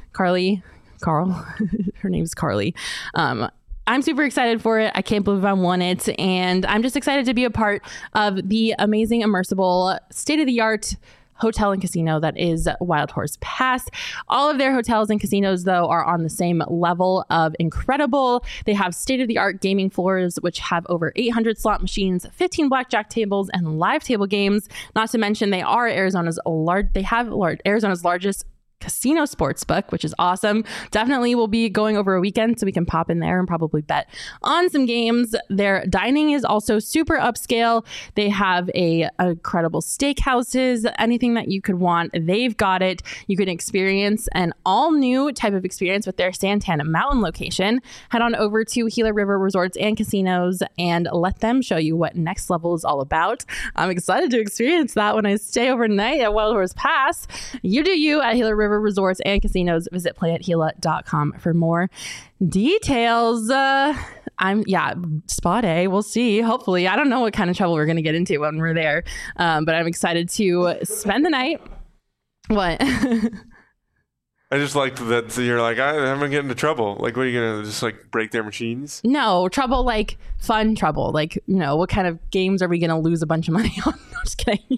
[SPEAKER 1] Her name's Carly. I'm super excited for it. I can't believe I won it. And I'm just excited to be a part of the amazing, immersible, state-of-the-art hotel and casino that is Wild Horse Pass. All of their hotels and casinos, though, are on the same level of incredible. They have state-of-the-art gaming floors, which have over 800 slot machines, 15 blackjack tables, and live table games. Not to mention, they are Arizona's largest casino sports book, which is awesome. Definitely will be going over a weekend, so we can pop in there and probably bet on some games. Their dining is also super upscale. They have incredible steakhouses, anything that you could want, they've got it. You can experience an all new type of experience with their Santana Mountain location. Head on over to Gila River Resorts and Casinos and let them show you what next level is all about. I'm excited to experience that when I stay overnight at Wild Horse Pass. You do you at Gila River Resorts and Casinos. Visit playathila.com for more details. Spot A. We'll see. Hopefully. I don't know what kind of trouble we're going to get into when we're there. But I'm excited to spend the night. What?
[SPEAKER 2] I just liked that. So you're like, I'm going to get into trouble. Like, what are you going to just like break their machines?
[SPEAKER 1] No, trouble, like fun trouble. Like, you know, what kind of games are we going to lose a bunch of money on? No, just kidding.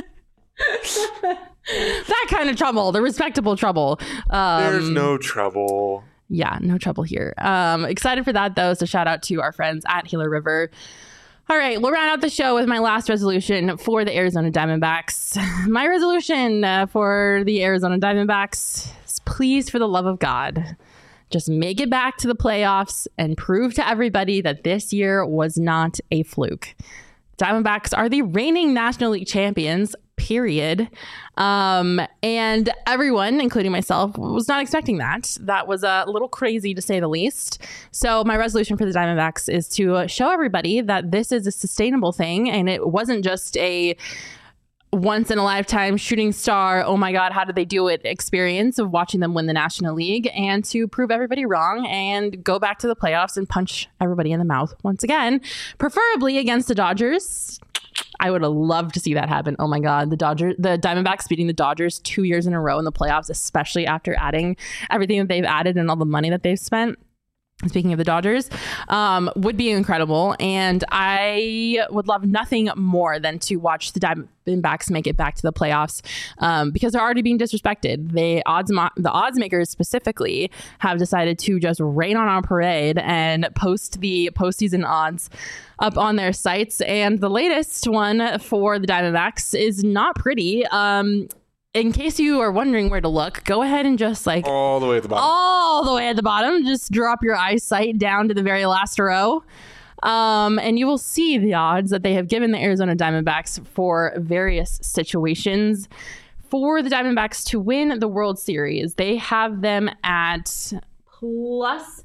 [SPEAKER 1] That kind of trouble, the respectable trouble.
[SPEAKER 2] There's no trouble.
[SPEAKER 1] Yeah, no trouble here. Excited for that, though. So shout out to our friends at Gila River. All right, we'll round out the show with my last resolution for the Arizona Diamondbacks. My resolution for the Arizona Diamondbacks is, please, for the love of God, just make it back to the playoffs and prove to everybody that this year was not a fluke. Diamondbacks are the reigning National League champions, period. And everyone, including myself, was not expecting that. That was a little crazy, to say the least. So my resolution for the Diamondbacks is to show everybody that this is a sustainable thing, and it wasn't just a once in a lifetime shooting star, oh my God, how did they do it experience of watching them win the National League, and to prove everybody wrong and go back to the playoffs and punch everybody in the mouth once again, preferably against the Dodgers. I would have loved to see that happen. Oh my God, the Diamondbacks beating the Dodgers 2 years in a row in the playoffs, especially after adding everything that they've added and all the money that they've spent. Speaking of the Dodgers, would be incredible. And I would love nothing more than to watch the Diamondbacks make it back to the playoffs, because they're already being disrespected. The odds makers specifically have decided to just rain on our parade and post the postseason odds up on their sites. And the latest one for the Diamondbacks is not pretty. In case you are wondering where to look, go ahead and just
[SPEAKER 2] all the way at the bottom.
[SPEAKER 1] All the way at the bottom. Just drop your eyesight down to the very last row. And you will see the odds that they have given the Arizona Diamondbacks for various situations. For the Diamondbacks to win the World Series, they have them at plus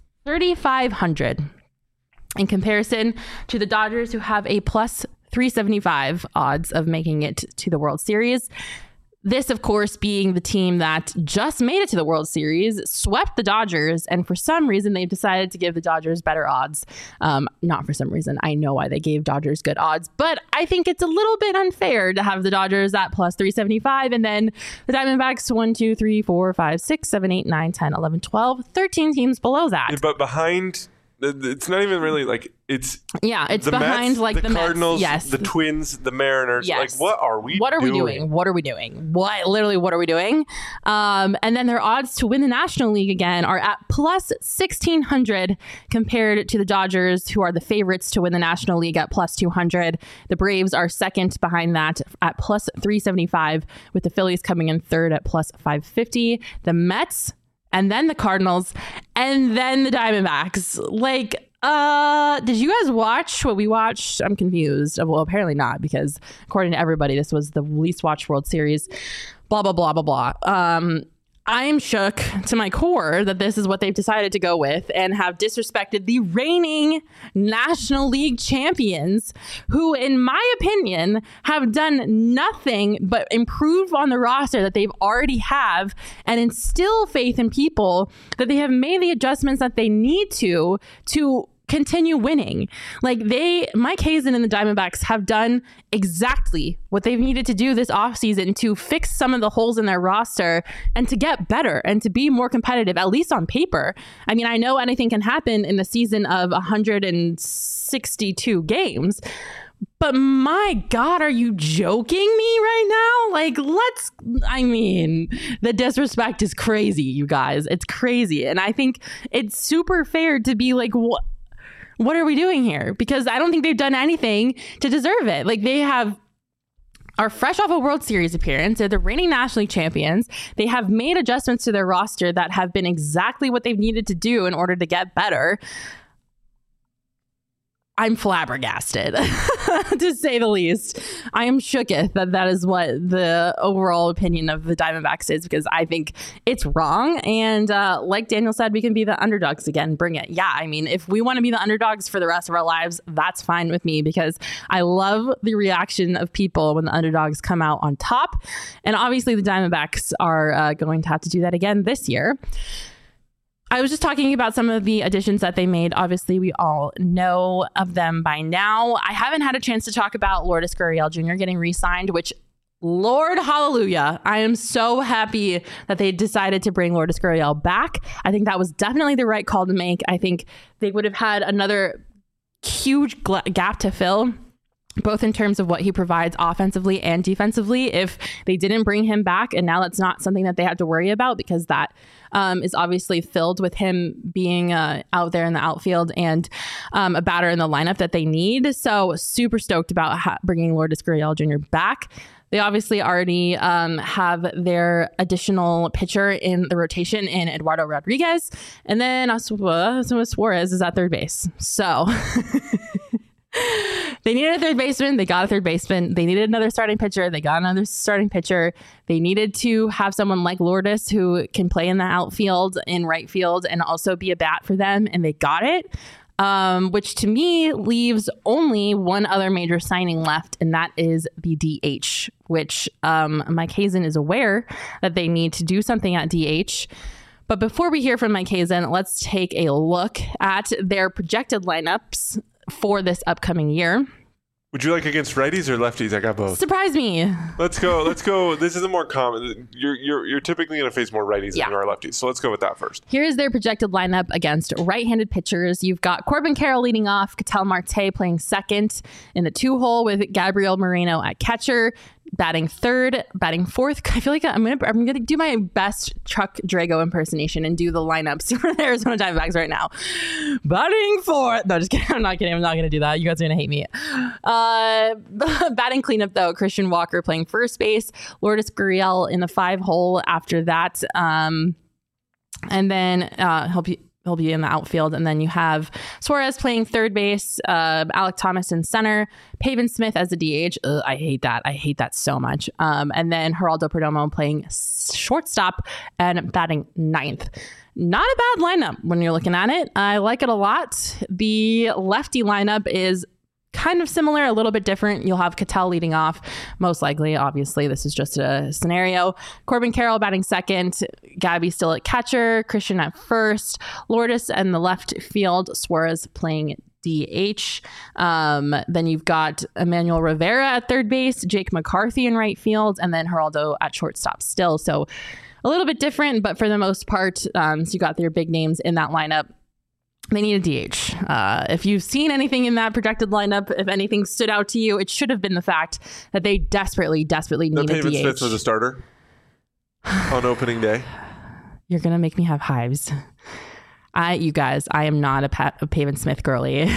[SPEAKER 1] 3,500 in comparison to the Dodgers, who have a plus 375 odds of making it to the World Series. This, of course, being the team that just made it to the World Series, swept the Dodgers, and for some reason, they've decided to give the Dodgers better odds. Not for some reason. I know why they gave Dodgers good odds, but I think it's a little bit unfair to have the Dodgers at plus 375, and then the Diamondbacks 1, 2, 3, 4, 5, 6, 7, 8, 9, 10, 11, 12, 13 teams below that.
[SPEAKER 2] Yeah, but behind... It's not even really it's
[SPEAKER 1] the
[SPEAKER 2] Mets,
[SPEAKER 1] behind the
[SPEAKER 2] Cardinals,
[SPEAKER 1] Mets, yes,
[SPEAKER 2] the Twins, the Mariners.
[SPEAKER 1] Yes.
[SPEAKER 2] What are we doing?
[SPEAKER 1] What are we doing? What are we doing? What are we doing? And then their odds to win the National League again are at plus 1,600 compared to the Dodgers, who are the favorites to win the National League at plus 200. The Braves are second behind that at plus 375, with the Phillies coming in third at plus 550. The Mets, and then the Cardinals, and then the Diamondbacks. Did you guys watch what we watched? I'm confused. Well, apparently not, because according to everybody, this was the least watched World Series. Blah, blah, blah, blah, blah. I'm shook to my core that this is what they've decided to go with, and have disrespected the reigning National League champions, who, in my opinion, have done nothing but improve on the roster that they've already have and instill faith in people that they have made the adjustments that they need to continue winning. Mike Hazen and the Diamondbacks have done exactly what they've needed to do this offseason to fix some of the holes in their roster and to get better and to be more competitive, at least on paper. I mean, I know anything can happen in the season of 162 games, but my God, are you joking me right now? The disrespect is crazy, you guys. It's crazy. And I think it's super fair to be what are we doing here? Because I don't think they've done anything to deserve it. They are fresh off a World Series appearance. They're the reigning National League champions. They have made adjustments to their roster that have been exactly what they've needed to do in order to get better. I'm flabbergasted, to say the least. I am shooketh that is what the overall opinion of the Diamondbacks is, because I think it's wrong. And like Daniel said, we can be the underdogs again. Bring it. Yeah, I mean, if we want to be the underdogs for the rest of our lives, that's fine with me, because I love the reaction of people when the underdogs come out on top. And obviously the Diamondbacks are going to have to do that again this year. I was just talking about some of the additions that they made. Obviously, we all know of them by now. I haven't had a chance to talk about Lourdes Gurriel Jr. getting re-signed, which, Lord hallelujah, I am so happy that they decided to bring Lourdes Gurriel back. I think that was definitely the right call to make. I think they would have had another huge gap to fill both in terms of what he provides offensively and defensively. If they didn't bring him back, and now that's not something that they have to worry about, because that is obviously filled with him being out there in the outfield and a batter in the lineup that they need. So super stoked about bringing Lourdes Gurriel Jr. back. They obviously already have their additional pitcher in the rotation in Eduardo Rodriguez. And then Suarez is at third base. So they needed a third baseman. They got a third baseman. They needed another starting pitcher. They got another starting pitcher. They needed to have someone like Lourdes who can play in the outfield, in right field, and also be a bat for them. And they got it. Which to me leaves only one other major signing left, and that is the DH, which Mike Hazen is aware that they need to do something at DH. But before we hear from Mike Hazen, let's take a look at their projected lineups for this upcoming year.
[SPEAKER 2] Would you like against righties or lefties? I got both.
[SPEAKER 1] Surprise me.
[SPEAKER 2] Let's go. This is a more common. You're typically going to face more righties than you are lefties. So let's go with that first.
[SPEAKER 1] Here's their projected lineup against right-handed pitchers. You've got Corbin Carroll leading off, Ketel Marte playing second in the 2-hole with Gabriel Moreno at catcher, batting third, batting fourth. I feel like I'm gonna do my best Chuck Drago impersonation and do the lineups for the Arizona Diamondbacks right now. Batting fourth. No, just kidding. I'm not kidding. I'm not gonna do that. You guys are gonna hate me. Batting cleanup though, Christian Walker playing first base, Lourdes Gurriel in the 5-hole after that, and then he'll be in the outfield. And then you have Suarez playing third base, Alek Thomas in center, Pavin Smith as a DH. Ugh, I hate that. I hate that so much. And then Geraldo Perdomo playing shortstop and batting ninth. Not a bad lineup when you're looking at it. I like it a lot. The lefty lineup is kind of similar, a little bit different. You'll have Ketel leading off, most likely. Obviously, this is just a scenario. Corbin Carroll batting second, Gabby still at catcher, Christian at first, Lourdes and the left field, Suarez playing DH. Then you've got Emmanuel Rivera at third base, Jake McCarthy in right field, and then Geraldo at shortstop still. So a little bit different, but for the most part, so you got their big names in that lineup. They need a DH. If you've seen anything in that projected lineup, if anything stood out to you, it should have been the fact that they desperately need a DH.
[SPEAKER 2] Pavin Smith was a starter on opening day.
[SPEAKER 1] You're going to make me have hives. You guys, I am not a Pavin Smith girly.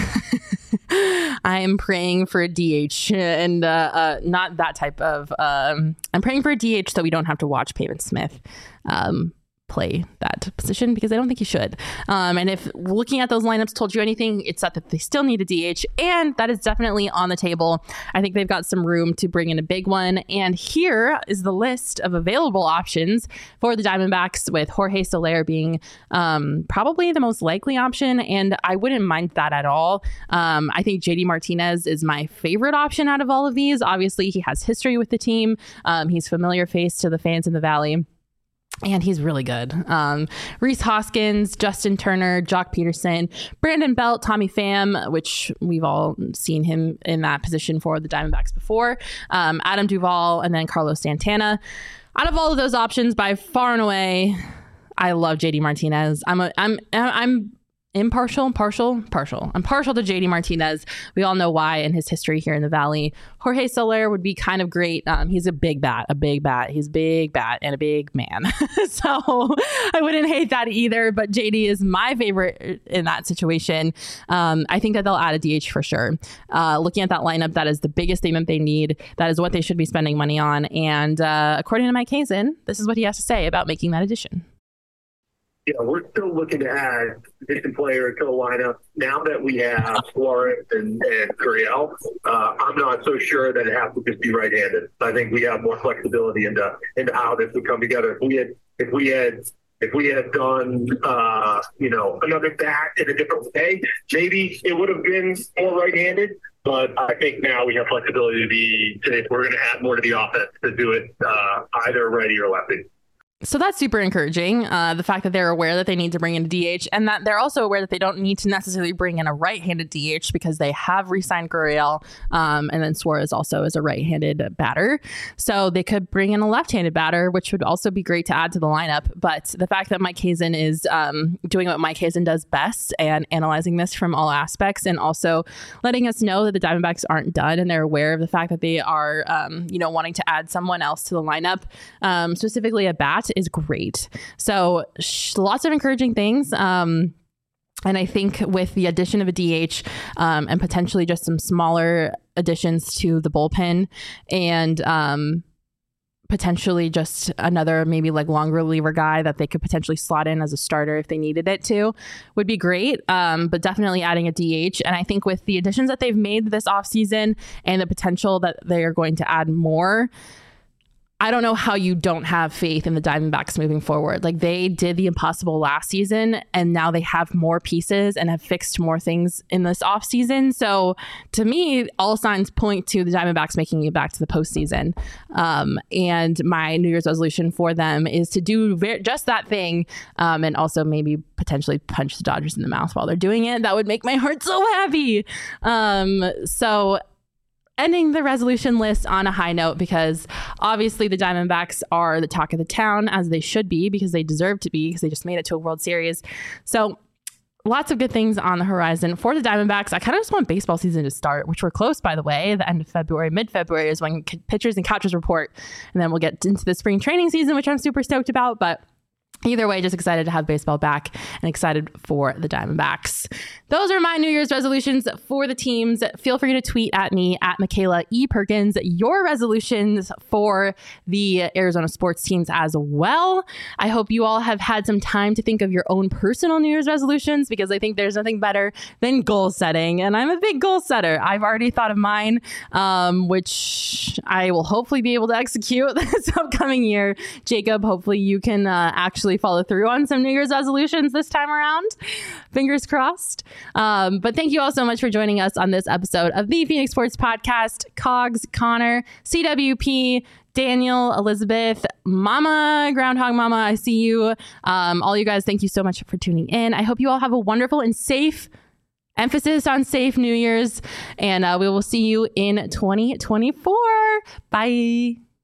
[SPEAKER 1] I am praying for a DH and not that type of... I'm praying for a DH so we don't have to watch Pavin Smith play that position, because I don't think he should. And if looking at those lineups told you anything, it's that they still need a DH, and that is definitely on the table. I think they've got some room to bring in a big one. And here is the list of available options for the Diamondbacks, with Jorge Soler being probably the most likely option, and I wouldn't mind that at all. I think JD Martinez is my favorite option out of all of these. Obviously, he has history with the team. He's familiar face to the fans in the Valley. And he's really good. Rhys Hoskins, Justin Turner, Jock Peterson, Brandon Belt, Tommy Pham, which we've all seen him in that position for the Diamondbacks before, Adam Duvall, and then Carlos Santana. Out of all of those options, by far and away, I love JD Martinez. I'm partial to JD Martinez. We all know why in his history here in the Valley. Jorge Soler would be kind of great. He's a big bat. He's a big bat and a big man. So I wouldn't hate that either, but JD is my favorite in that situation. I think that they'll add a DH for sure. Looking at that lineup, that is the biggest thing that they need. That is what they should be spending money on. And according to Mike Hazen, this is what he has to say about making that addition.
[SPEAKER 5] Yeah, we're still looking to add addition player to the lineup. Now that we have Suarez and Gurriel, I'm not so sure that it has to just be right-handed. I think we have more flexibility into how this would come together. If we had done another bat in a different way, maybe it would have been more right-handed. But I think now we have flexibility if we're going to add more to the offense, to do it either righty or lefty.
[SPEAKER 1] So that's super encouraging. The fact that they're aware that they need to bring in a DH, and that they're also aware that they don't need to necessarily bring in a right-handed DH because they have re-signed Gurriel, and then Suarez also is a right-handed batter. So they could bring in a left-handed batter, which would also be great to add to the lineup. But the fact that Mike Hazen is doing what Mike Hazen does best and analyzing this from all aspects, and also letting us know that the Diamondbacks aren't done and they're aware of the fact that they are, wanting to add someone else to the lineup, specifically a bat, is great. So lots of encouraging things. And I think with the addition of a DH and potentially just some smaller additions to the bullpen and potentially just another maybe like long reliever guy that they could potentially slot in as a starter if they needed it to, would be great. But definitely adding a DH. And I think with the additions that they've made this offseason and the potential that they are going to add more, I don't know how you don't have faith in the Diamondbacks moving forward. Like, they did the impossible last season, and now they have more pieces and have fixed more things in this offseason. So to me, all signs point to the Diamondbacks making it back to the postseason. And my New Year's resolution for them is to do just that thing, and also maybe potentially punch the Dodgers in the mouth while they're doing it. That would make my heart so happy. So ending the resolution list on a high note, because obviously the Diamondbacks are the talk of the town, as they should be, because they deserve to be, because they just made it to a World Series. So lots of good things on the horizon for the Diamondbacks. I kind of just want baseball season to start, which we're close, by the way. The end of February, mid-February is when pitchers and catchers report. And then we'll get into the spring training season, which I'm super stoked about. But either way, just excited to have baseball back and excited for the Diamondbacks. Those are my New Year's resolutions for the teams. Feel free to tweet at me at Michaela E. Perkins your resolutions for the Arizona sports teams as well. I hope you all have had some time to think of your own personal New Year's resolutions, because I think there's nothing better than goal setting. And I'm a big goal setter. I've already thought of mine, which I will hopefully be able to execute this upcoming year. Jacob, hopefully you can actually follow through on some New Year's resolutions this time around. Fingers crossed. But thank you all so much for joining us on this episode of the Phoenix Sports Podcast. Cogs, Connor, CWP, Daniel, Elizabeth, Mama, Groundhog Mama, I see you. All you guys, thank you so much for tuning in. I hope you all have a wonderful and safe, emphasis on safe, New Year's, and we will see you in 2024. Bye.